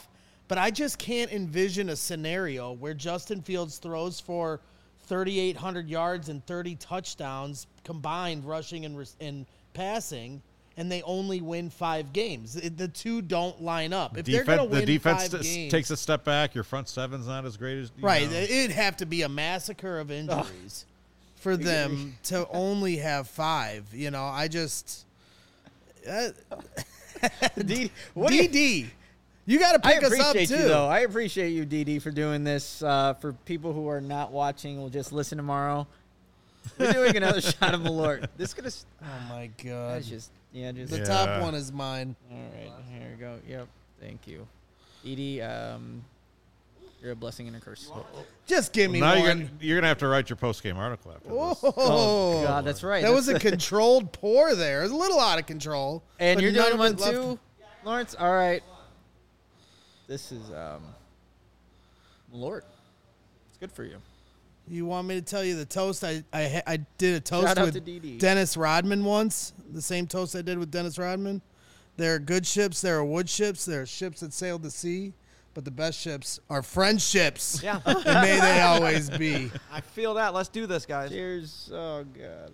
But I just can't envision a scenario where Justin Fields throws for thirty-eight hundred yards and thirty touchdowns combined, rushing and, and passing, and they only win five games. It, the two don't line up. If they're going to win the defense five t- games, takes a step back. Your front seven's not as great as you right. know. It'd have to be a massacre of injuries for them to only have five. You know, I just uh, D- what do you- D D. You got to I pick us up appreciate too. you, though. I appreciate you, D D, for doing this. Uh, for people who are not watching, will just listen tomorrow. We're doing another shot of Malort. This is gonna. s- Oh my god. That's just yeah, just. The Yeah. top one is mine. All right, here we go. Yep, thank you, D D. Um, you're a blessing and a curse. Just give me now one. you're gonna, you're gonna have to write your post game article after this. Oh, God, that's right. That was a That's- controlled pour there. It was a little out of control. And but you're none doing of one it left- too, Lawrence. All right. This is um, Malort. It's good for you. You want me to tell you the toast? I I, ha- I did a toast Shout out to with D D. Dennis Rodman once. The same toast I did with Dennis Rodman. There are good ships. There are wood ships. There are ships that sail the sea. But the best ships are friendships. Yeah. And may they always be. I feel that. Let's do this, guys. Cheers. Oh God.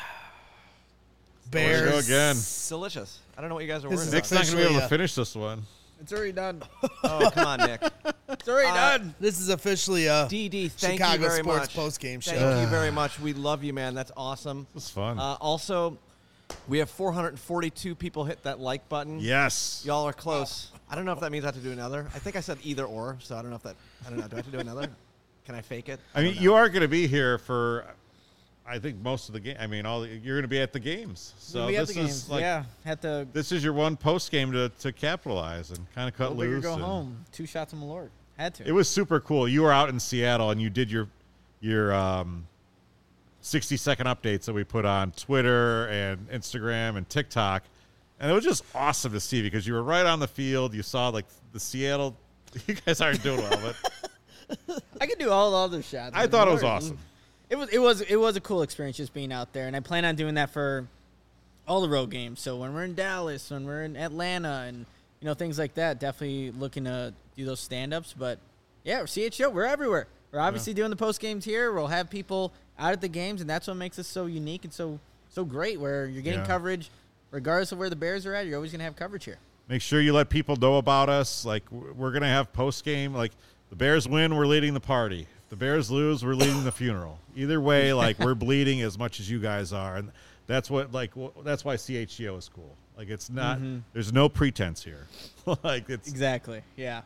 There we go Bears. again. Delicious. I don't know what you guys are This worried is about. Nick's not gonna be able officially, to uh, finish this one. It's already done. Oh, come on, Nick. It's already Uh, done. This is officially a D D, thank Chicago you very sports much. postgame show. Thank you very much. We love you, man. That's awesome. This is fun. Uh, also, we have four hundred forty-two people hit that like button. yes. Y'all are close. I don't know if that means I have to do another. I think I said either or, so I don't know if that. I don't know. Do I have to do another? Can I fake it? I mean, don't know. you are going to be here for, I think, most of the game. I mean, all the, you're going to be at the games. So we this at the is games. like yeah, had to this is your one post game to, to capitalize and kind of cut go big or loose. go and- home. Two shots of Malort. Had to. It was super cool. You were out in Seattle and you did your your um, sixty second updates that we put on Twitter and Instagram and TikTok, and it was just awesome to see because you were right on the field. You saw like the Seattle. You guys aren't doing well, but I could do all the other shots. I with thought it was Malort. awesome. It was it was it was a cool experience just being out there, and I plan on doing that for all the road games. So when we're in Dallas, when we're in Atlanta, and you know things like that, definitely looking to do those stand-ups. But yeah, C H O, we're everywhere. We're obviously doing the post games here. We'll have people out at the games, and that's what makes us so unique and so so great. Where you're getting Yeah. coverage, regardless of where the Bears are at. You're always gonna have coverage here. Make sure you let people know about us. Like w- we're gonna have post game. Like the Bears win, we're leading the party. If the Bears lose, we're leading the funeral. Either way, like we're bleeding as much as you guys are, and that's what like w- that's why C H G O is cool. Like it's not. There's no pretense here. like it's Exactly. Yeah.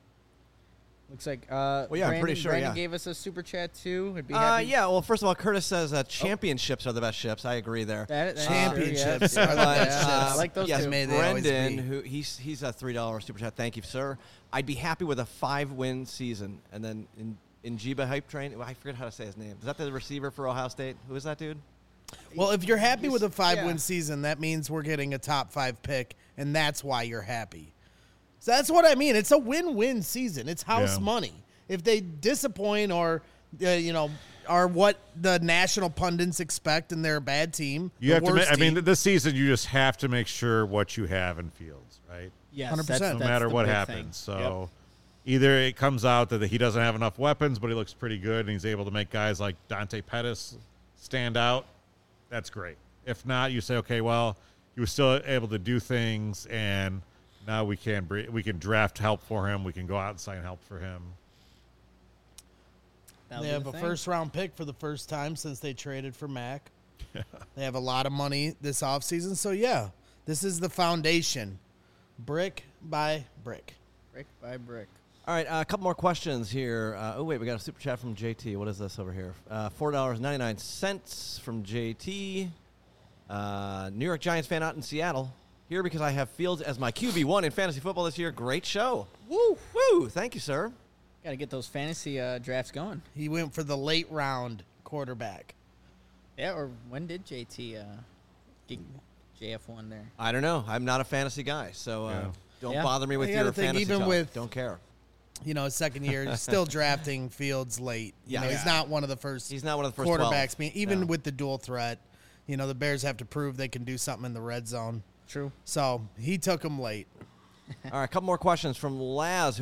Looks like uh, Well, yeah, I'm Brandon, pretty sure, Brandon yeah. gave us a super chat too. I'd be Uh, happy. yeah. Well, first of all, Curtis says uh, championships are the best ships. I agree there. That, that's Championships true, yeah. are the Yeah, best yeah, ships. I like those yes, two. May they always Brendan, be. who he's he's a three dollar super chat. Thank you, sir. I'd be happy with a five win season, and then in Njiba Hype Train. I forget how to say his name. Is that the receiver for Ohio State? Who is that dude? Well, if you're happy with a five-win yeah. season, that means we're getting a top five pick, and that's why you're happy. So that's what I mean. It's a win-win season. It's house Yeah. money. If they disappoint or, uh, you know, are what the national pundits expect and they're a bad team, you the have to. Ma- worst I mean, team, this season you just have to make sure what you have in Fields, right? Yes, one hundred percent. that's- No that's matter the what big happens. thing. So either it comes out that he doesn't have enough weapons, but he looks pretty good, and he's able to make guys like Dante Pettis stand out. That's great. If not, you say, okay, well, he was still able to do things, and now we can br- we can draft help for him. We can go out and sign help for him. That'll they be have the a thing. first-round pick for the first time since they traded for Mac. They have a lot of money this offseason. So, yeah, this is the foundation, brick by brick. brick by brick. All right, uh, a couple more questions here. Uh, oh, wait, we got a super chat from J T. What is this over here? Uh, four dollars and ninety-nine cents from J T. Uh, New York Giants fan out in Seattle. Here because I have Fields as my Q B one in fantasy football this year. Great show. Woo, woo. Thank you, sir. Got to get those fantasy uh, drafts going. He went for the late round quarterback. Yeah, or when did J T uh, get J F one there? I don't know. I'm not a fantasy guy, so uh, Yeah. don't Yeah. bother me with You your gotta think, fantasy even talk. with- Don't care. You know, his second year, still drafting Fields late. You Yeah. know, he's Yeah. not one of the first. He's not one of the first quarterbacks. twelve. Being, even No. with the dual threat, you know, the Bears have to prove they can do something in the red zone. True. So he took him late. All right, a couple more questions from Laz, who has a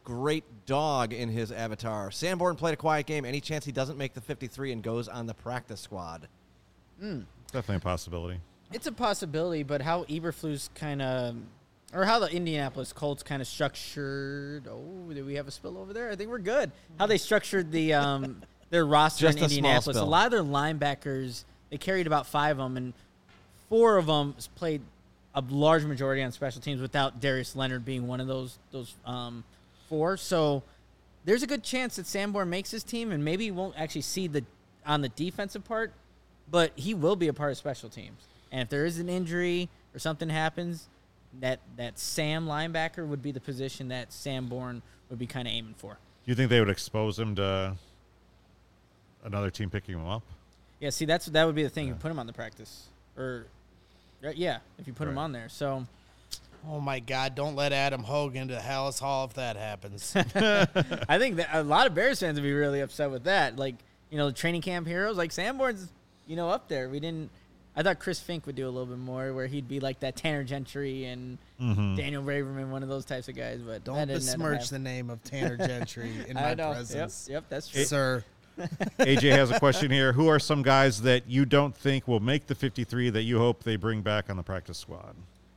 great dog in his avatar. Sanborn played a quiet game. Any chance he doesn't make the fifty-three and goes on the practice squad? Definitely a possibility. It's a possibility, but how Eberflus kind of, or how the Indianapolis Colts kind of structured. Oh, did we have a spill over there? I think we're good. How they structured the um, their roster Just in a small Indianapolis. A spill. lot of their linebackers, they carried about five of them, and four of them played a large majority on special teams without Darius Leonard being one of those those um, four. So there's a good chance that Sanborn makes his team, and maybe he won't actually see the on the defensive part, but he will be a part of special teams. And if there is an injury or something happens, that that Sam linebacker would be the position that Sanborn would be kind of aiming for. Do you think they would expose him to another team picking him up? Yeah, see, that's that would be the thing. You put him on the practice, or uh, yeah, if you put him Right. on there. So Oh my God! Don't let Adam Hogan to Hallis Hall if that happens. I think that a lot of Bears fans would be really upset with that. Like, you know, the training camp heroes, like Sanborn's, you know, up there. We didn't. I thought Chris Fink would do a little bit more, where he'd be like that Tanner Gentry and Daniel Raverman, one of those types of guys. But Don't that didn't end up besmirch the happening. name of Tanner Gentry in I my know. presence, Yep, yep, that's true. sir. A J has a question here. Who are some guys that you don't think will make the fifty-three that you hope they bring back on the practice squad?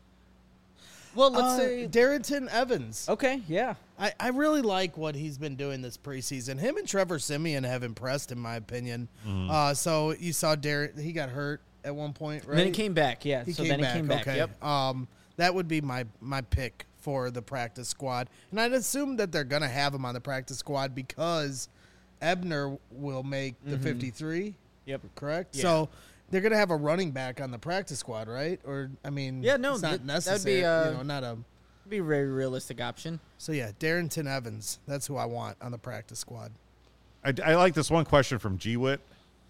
Well, let's Uh, say Darrington Evans. okay, yeah. I, I really like what he's been doing this preseason. Him and Trevor Simeon have impressed, in my opinion. Uh, so you saw Darren; he got hurt at one point, right? And then he came back, yeah. He so came then back. he came back. Okay. Yep. Um, that would be my my pick for the practice squad, and I'd assume that they're gonna have him on the practice squad because Ebner will make the fifty-three. Yep. Correct. Yeah. So they're gonna have a running back on the practice squad, right? Or I mean, Yeah, no, it's not that- that'd be, necessary. uh, you know, not a. Be a very realistic option. So yeah, Darrington Evans. That's who I want on the practice squad. I, I like this one question from G-Wit.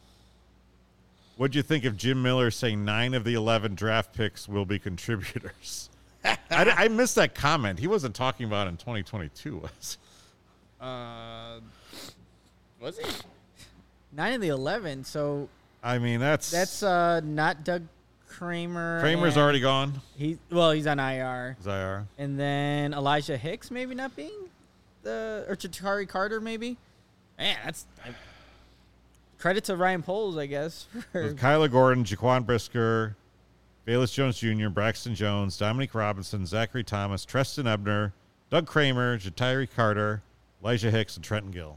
What'd you think of Jim Miller saying nine of the eleven draft picks will be contributors? I, I missed that comment. He wasn't talking about in twenty twenty-two, was he? Uh, was he? Nine of the eleven. So I mean, that's that's uh not Doug Kramer. Kramer's and already gone. He well, he's on I R. Is I R? And then Elijah Hicks maybe not being the or Ja'Tari Carter maybe. Man, that's I, credit to Ryan Poles, I guess. For, With Kyler Gordon, Jaquan Brisker, Bayless Jones Junior, Braxton Jones, Dominique Robinson, Zachary Thomas, Treston Ebner, Doug Kramer, Ja'Tari Carter, Elijah Hicks, and Trenton Gill.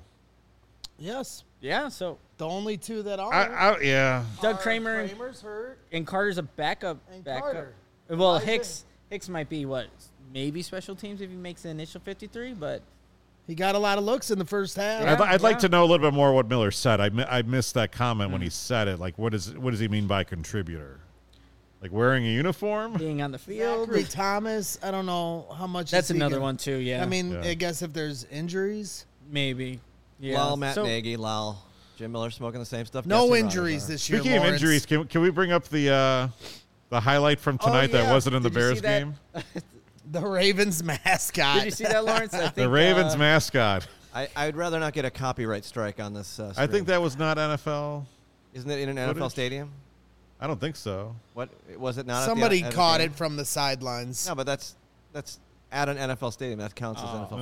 Yes, yeah, so the only two that are. I, I, yeah. Doug are Kramer and, Kramer's hurt. and Carter's a backup. And backup. Carter. Well, Elijah- Hicks Hicks might be what maybe special teams if he makes the initial fifty-three, but He got a lot of looks in the first half. Yeah. I'd, I'd like yeah. to know a little bit more what Miller said. I, mi- I missed that comment when he said it. Like, what is what does he mean by contributor? Like wearing a uniform? being on the field. Zachary Thomas. I don't know how much. That's is he another gonna- one too. Yeah, I mean, Yeah. I guess if there's injuries, maybe. Yeah. Lal, Matt so, Nagy, Lal, Jim Miller smoking the same stuff. no Jesse injuries Rogers. this year. Speaking of Lawrence. injuries, can, can we bring up the uh, the highlight from tonight yeah. that wasn't in the Did you Bears see that? game? the Ravens mascot. Did you see that, Lawrence? I think, The Ravens uh, mascot. I, I'd rather not get a copyright strike on this. Uh, I stream. think that was not N F L. Isn't it in an N F L footage? stadium? I don't think so. What was it? Not at the- Somebody at the caught game? it from the sidelines. No, but that's that's at an N F L stadium. That counts as N F L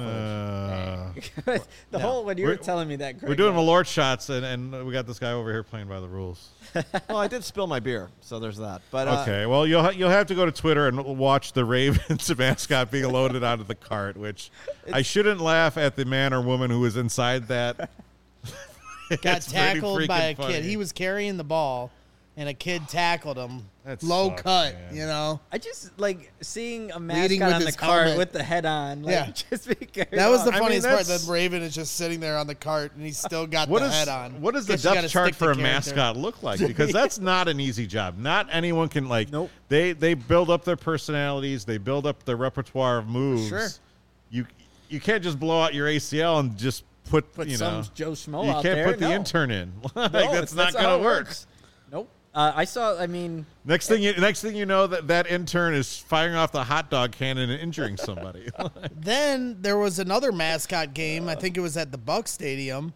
footage. Uh, the No. whole when you were We're- telling me that, Greg, we're doing uh, Malort shots, and, and we got this guy over here playing by the rules. Well, I did spill my beer, so there's that. But uh, Okay, well you'll ha- you'll have to go to Twitter and watch the Ravens mascot being loaded onto the cart. Which I shouldn't laugh at the man or woman who was inside that. Got It's pretty tackled by a freaking kid. funny. He was carrying the ball, and a kid tackled him. That Low sucks, cut, man. you know. I just like seeing a Leading mascot with on the his cart helmet. with the head on. Like, Yeah. just because That was the I mean, funniest part. that's- The Raven is just sitting there on the cart, and he's still got What the is head on. what does the Guess you gotta depth chart stick for the a character. mascot look like? Because that's not an easy job. Not anyone can like. Nope. They they build up their personalities. They build up their repertoire of moves. Sure. You you can't just blow out your A C L and just put, put you some know. Joe Schmo You out can't there. put the No. intern in. like No, that's it's- not how gonna it work. works. Nope. Uh, I saw. I mean, Next thing you next thing you know that that intern is firing off the hot dog cannon and injuring somebody. Then there was another mascot game. I think it was at the Buck Stadium,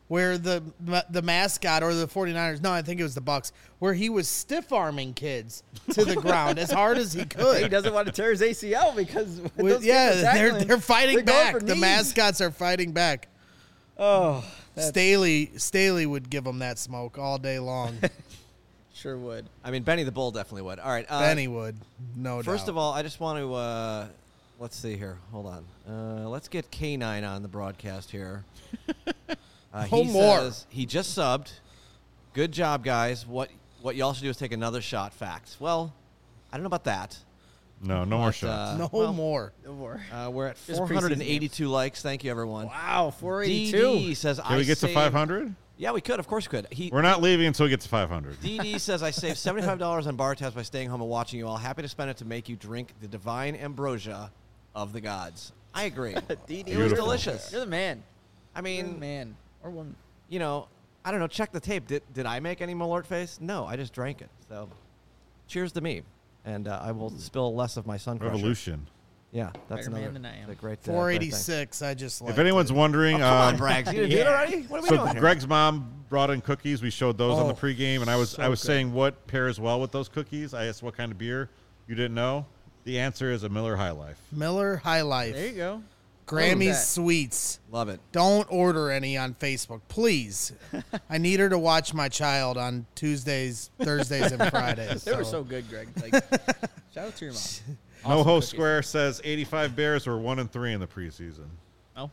where the the mascot or the 49ers, no, I think it was the Bucks, where he was stiff-arming kids to the ground as hard as he could. He doesn't want to tear his A C L because when With- those yeah, kids are they're tackling, they're fighting they're going back. for The knees. mascots are fighting back. Oh, that's- Staley Staley would give them that smoke all day long. sure would. I mean, Benny the Bull definitely would. All right. Uh, Benny would, no First doubt. of all, I just want to uh, let's see here. Hold on. Uh, let's get K nine on the broadcast here. Uh, Oh, he more. says he just subbed. Good job, guys. What what y'all should do is take another shot. Facts. Well, I don't know about that. No, no more But, shots. uh, no well, more. No more. Uh, we're at Just four hundred eighty-two likes. Thank you, everyone. Wow, four D eighty-two. D says, Can I we get to saved- five hundred? Yeah, we could. Of course, we could. He We're not leaving until we get to five hundred. D D says, I saved seventy-five dollars on bar tabs by staying home and watching you all. Happy to spend it to make you drink the divine ambrosia of the gods. I agree. D D, It was Beautiful. delicious. You're the man. I You're the mean, man or woman. you know, I don't know. Check the tape. Did, did I make any Malort face? No, I just drank it. So cheers to me. And uh, I will spill less of my sun crusher. Revolution. Yeah, that's Better man another than I am. a great uh, four great thing. eighty-six. I just like If anyone's wondering, Oh, come on, um, Braggs. You didn't do it Yeah. already? What are we so doing here? Greg's mom brought in cookies. We showed those on the Oh, pregame, and I was so I was good. saying what pairs well with those cookies. I asked what kind of beer. You didn't know. The answer is a Miller High Life. Miller High Life, There you go. Grammy's that. Sweets. Love it. Don't order any on Facebook, please. I need her to watch my child on Tuesdays, Thursdays, and Fridays. They were so good, Greg. Like, shout out to your mom. No Awesome Host cookies. Square says eighty-five Bears were one and three in the preseason. Oh.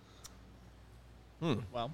Hmm. Well,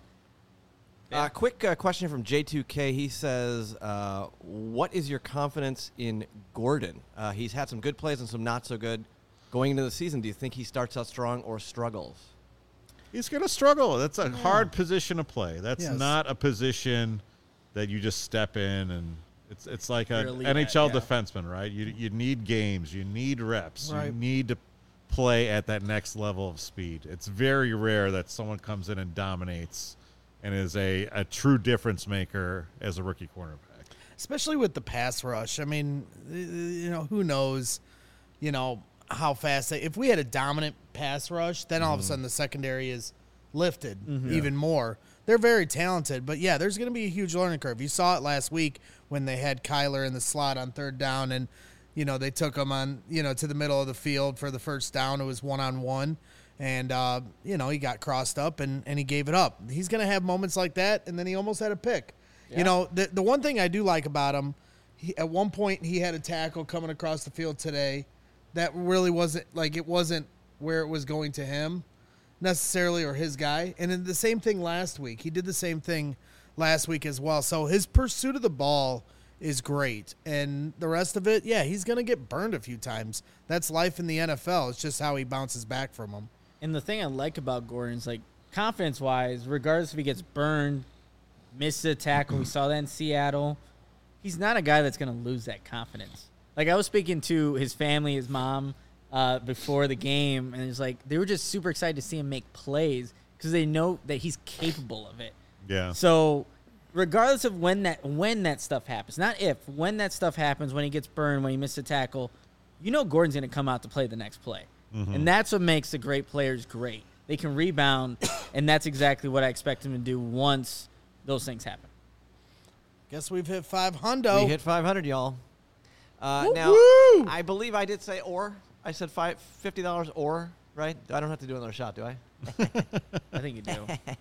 Uh, quick uh, question from J two K. He says, uh, what is your confidence in Gordon? Uh, he's had some good plays and some not so good. Going into the season, do you think he starts out strong or struggles? He's going to struggle. That's a hard position to play. That's Yes. not a position that you just step in and it's it's like You're an elite N H L at, yeah. defenseman, right? You you need games, you need reps, Right. you need to play at that next level of speed. It's very rare that someone comes in and dominates and is a, a true difference maker as a rookie cornerback. Especially with the pass rush. I mean, uh, you know, who knows, you know, how fast they, if we had a dominant pass rush, then all of a sudden the secondary is lifted even more. They're very talented, but yeah, there's going to be a huge learning curve. You saw it last week when they had Kyler in the slot on third down and, you know, they took him on, you know, to the middle of the field for the first down. It was one-on-one. And, uh, you know, he got crossed up and, and he gave it up. He's going to have moments like that, and then he almost had a pick. You know, the the one thing I do like about him, he, at one point he had a tackle coming across the field today that really wasn't, like, it wasn't where it was going to him necessarily or his guy. And then the same thing last week. He did the same thing last week as well. So his pursuit of the ball is great. And the rest of it, yeah, he's going to get burned a few times. That's life in the N F L. It's just how he bounces back from them. and the thing I like about Gordon is, like, confidence-wise, regardless if he gets burned, misses a tackle, we saw that in Seattle, he's not a guy that's going to lose that confidence. Like, I was speaking to his family, his mom, uh, before the game, and it's like they were just super excited to see him make plays because they know that he's capable of it. Yeah. So, regardless of when that when that stuff happens, not if, when that stuff happens, when he gets burned, when he misses a tackle, you know Gordon's going to come out to play the next play. Mm-hmm. And that's what makes the great players great. They can rebound, and that's exactly what I expect him to do once those things happen. Guess we've hit five hundo. We hit five hundred, y'all. Uh, Woo-hoo! now, I believe I did say or. I said five, fifty dollars or, right? I don't have to do another shot, do I? I think you do.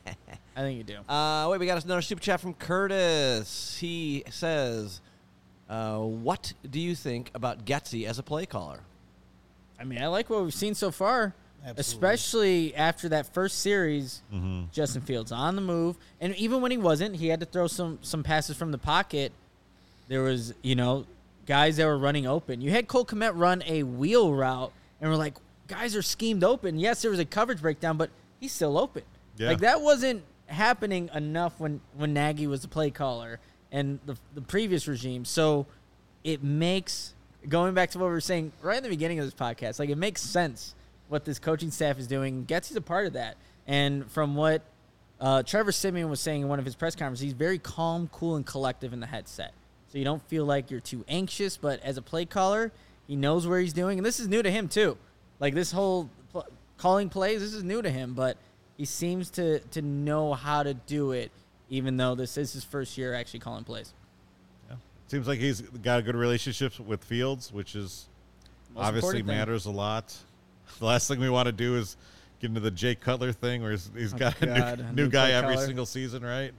I think you do. Uh, wait, we got another super chat from Curtis. He says, uh, what do you think about Getsy as a play caller? I mean, I like what we've seen so far, Absolutely. especially after that first series. Mm-hmm. Justin Fields on the move, and even when he wasn't, he had to throw some some passes from the pocket. There was, you know, guys that were running open. You had Cole Kmet run a wheel route, and we're like, guys are schemed open. Yes, there was a coverage breakdown, but he's still open. Yeah. Like, that wasn't happening enough when, when Nagy was the play caller and the, the previous regime. So it makes, going back to what we were saying right in the beginning of this podcast, like, it makes sense what this coaching staff is doing. Getsy's a part of that. And from what uh, Trevor Siemian was saying in one of his press conferences, he's very calm, cool, and collective in the headset. So you don't feel like you're too anxious, but as a play caller, he knows where he's doing. And this is new to him, too. Like, this whole pl- calling plays, this is new to him, but he seems to to know how to do it, even though this is his first year actually calling plays. Yeah. Seems like he's got a good relationship with Fields, which is Most obviously important thing. matters a lot. The last thing we want to do is get into the Jay Cutler thing, where he's, he's Oh, got God, a new, new new guy Jay every Cutler. single season, right?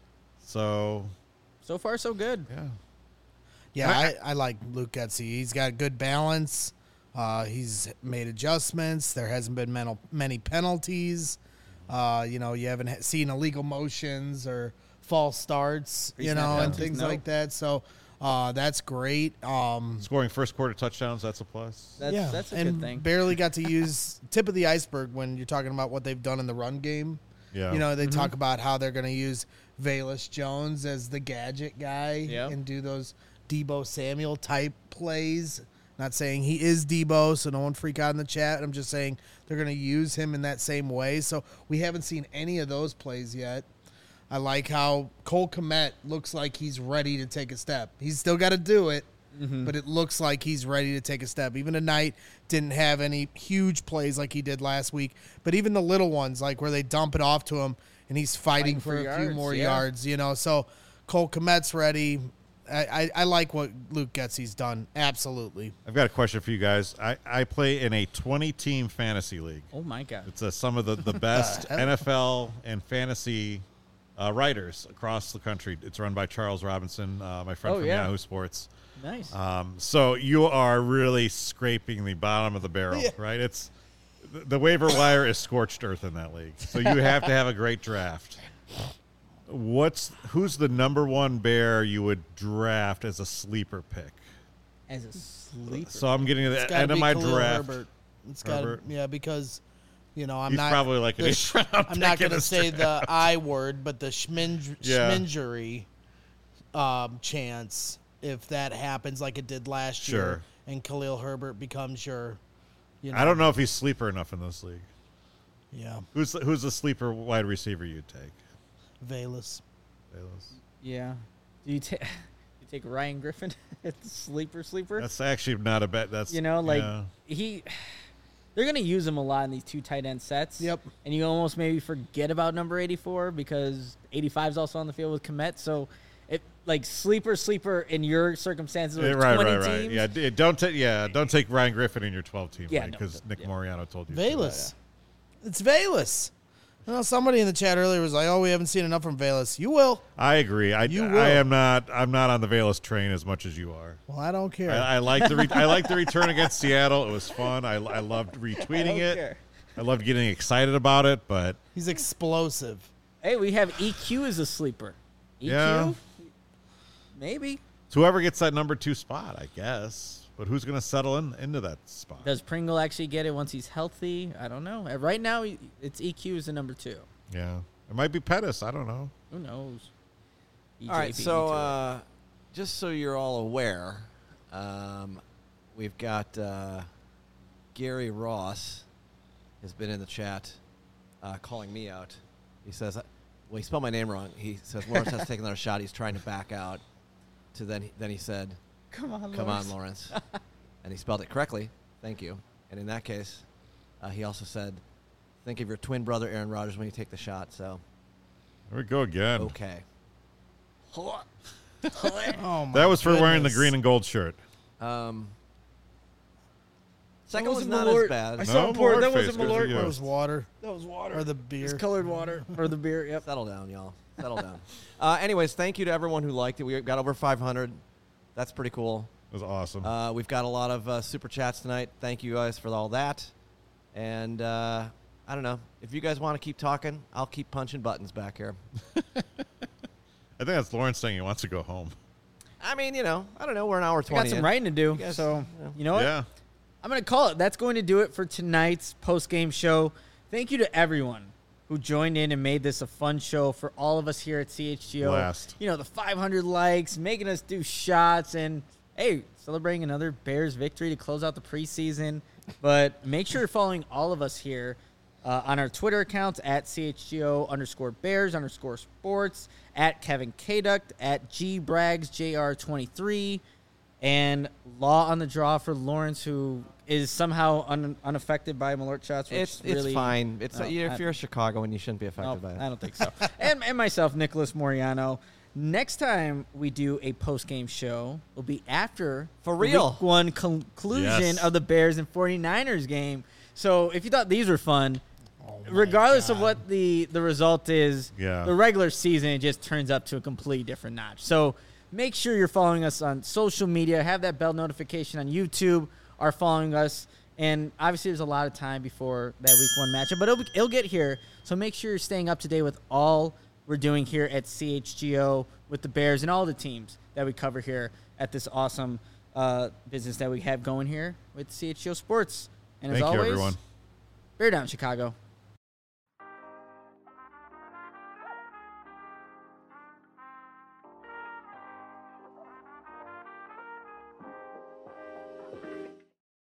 So, So far, so good. yeah. Yeah, I, I like Luke Getzey. He's got good balance. Uh, he's made adjustments. There hasn't been mental, many penalties. Uh, you know, you haven't ha- seen illegal motions or false starts, you Pre-snap know, and penalties, things no. like that. So uh, that's great. Um, Scoring first quarter touchdowns, that's a plus. That's yeah, that's a and good thing. barely got to use tip of the iceberg when you're talking about what they've done in the run game. Yeah. You know, they Mm-hmm. talk about how they're going to use Velus Jones as the gadget guy Yeah. and do those Debo Samuel type plays. Not saying he is Debo, so no one freak out in the chat. I'm just saying they're going to use him in that same way. So we haven't seen any of those plays yet. I like how Cole Kmet looks like he's ready to take a step. He's still got to do it, but it looks like he's ready to take a step. Even tonight, didn't have any huge plays like he did last week, but even the little ones, like where they dump it off to him and he's fighting, Fighting for, for a few yards, more yeah. yards, you know. So Cole Kmet's ready. I, I, I like what Luke Getzey's done. Absolutely. I've got a question for you guys. I, I play in a twenty-team fantasy league. Oh my God. It's uh, some of the, the best hell? N F L and fantasy uh, writers across the country. It's run by Charles Robinson, uh, my friend Oh, from yeah. Yahoo Sports. Nice. Um, so you are really scraping the bottom of the barrel, Yeah. right? It's the, the waiver wire is scorched earth in that league. So you have to have a great draft. What's who's the number one bear you would draft as a sleeper pick? As a sleeper. So I'm getting to It's the gotta end of be my Khalil draft. Herbert. It's got Herbert. yeah, because you know I'm He's not probably like an the eighth sh- round I'm not pick in going to this say draft. the I word, but the schmin- Yeah. schmingery um, chance if that happens like it did last Sure. year, and Khalil Herbert becomes your, you know, I don't know if he's sleeper enough in this league. yeah, Who's the, who's the sleeper wide receiver you'd take? Valus. Bayless? yeah. Do you take you take Ryan Griffin? sleeper, sleeper. That's actually not a bet. That's you know, like yeah. he. They're gonna use him a lot in these two tight end sets. Yep. And you almost maybe forget about number eighty-four because eighty-five is also on the field with Kmet. So, it like sleeper, sleeper in your circumstances with Yeah, right, twenty right, right. teams. Yeah, d- don't take yeah, don't take Ryan Griffin in your twelve team Yeah, league no, because don't- Nick yeah. Moriano told you. to. Valus. It's Valus. You know, somebody in the chat earlier was like, "Oh, we haven't seen enough from Valus." You will. I agree. I, You I will. am not. I'm not on the Valus train as much as you are. Well, I don't care. I, I like the re- I like the return against Seattle. It was fun. I, I loved retweeting it. care. I loved getting excited about it. But He's explosive. Hey, we have E Q as a sleeper. E Q, Yeah. maybe. it's whoever gets that number two spot, I guess. But who's going to settle in into that spot? Does Pringle actually get it once he's healthy? I don't know. Uh, Right now, it's E Q as the number two. Yeah, it might be Pettis. I don't know. Who knows? E J All right, beat me so to it. uh, just so you're all aware, um, we've got uh, Gary Ross has been in the chat uh, calling me out. He says, well, he spelled my name wrong. He says Lawrence has to take another shot. He's trying to back out. To then, then he said, come on, "Come Lawrence. on, Lawrence," and he spelled it correctly. Thank you. And in that case, uh, he also said, "Think of your twin brother Aaron Rodgers when you take the shot." So, There we go again. okay. Oh my That was for wearing the goodness. green and gold shirt. Um, second That was wasn't not Malort. as bad. I saw No, him pour it. Malort That face wasn't goes to Malort. you. That was water That was water. or the beer. It's colored water or the beer. Yep. Settle down, y'all. Settle down. Uh, anyways, thank you to everyone who liked it. We got over five hundred. That's pretty cool. It was awesome. Uh, we've got a lot of uh, super chats tonight. Thank you guys for all that. And uh, I don't know. If you guys want to keep talking, I'll keep punching buttons back here. I think that's Lawrence saying he wants to go home. I mean, you know, I don't know. We're an hour I twenty. got some in. writing to do. You guys- so, yeah. you know what? Yeah. I'm going to call it. That's going to do it for tonight's post-game show. Thank you to everyone who joined in and made this a fun show for all of us here at C H G O. Blast. You know, the five hundred likes, making us do shots, and, hey, celebrating another Bears victory to close out the preseason. But make sure you're following all of us here uh, on our Twitter accounts at C H G O underscore Bears underscore sports, at Kevin Kaduct, at G Braggs J R twenty-three, and Law on the Draw for Lawrence, who is somehow un, unaffected by Malort shots. Which It's it's really, fine. It's Oh, uh, if I- you're a Chicagoan, you shouldn't be affected No, by it. I don't think so. and, and myself, Nicholas Moriano. Next time we do a post-game show will be after For the real. week one conclusion Yes. of the Bears and 49ers game. So if you thought these were fun, Oh my regardless of God. what the, the result is, Yeah. the regular season it just turns up to a completely different notch. So make sure you're following us on social media. Have that bell notification on YouTube. Are following us. And obviously there's a lot of time before that week one matchup, but it'll, it'll get here. So make sure you're staying up to date with all we're doing here at C H G O with the Bears and all the teams that we cover here at this awesome uh, business that we have going here with C H G O Sports. And Thank as you, always, everyone. Bear down, Chicago.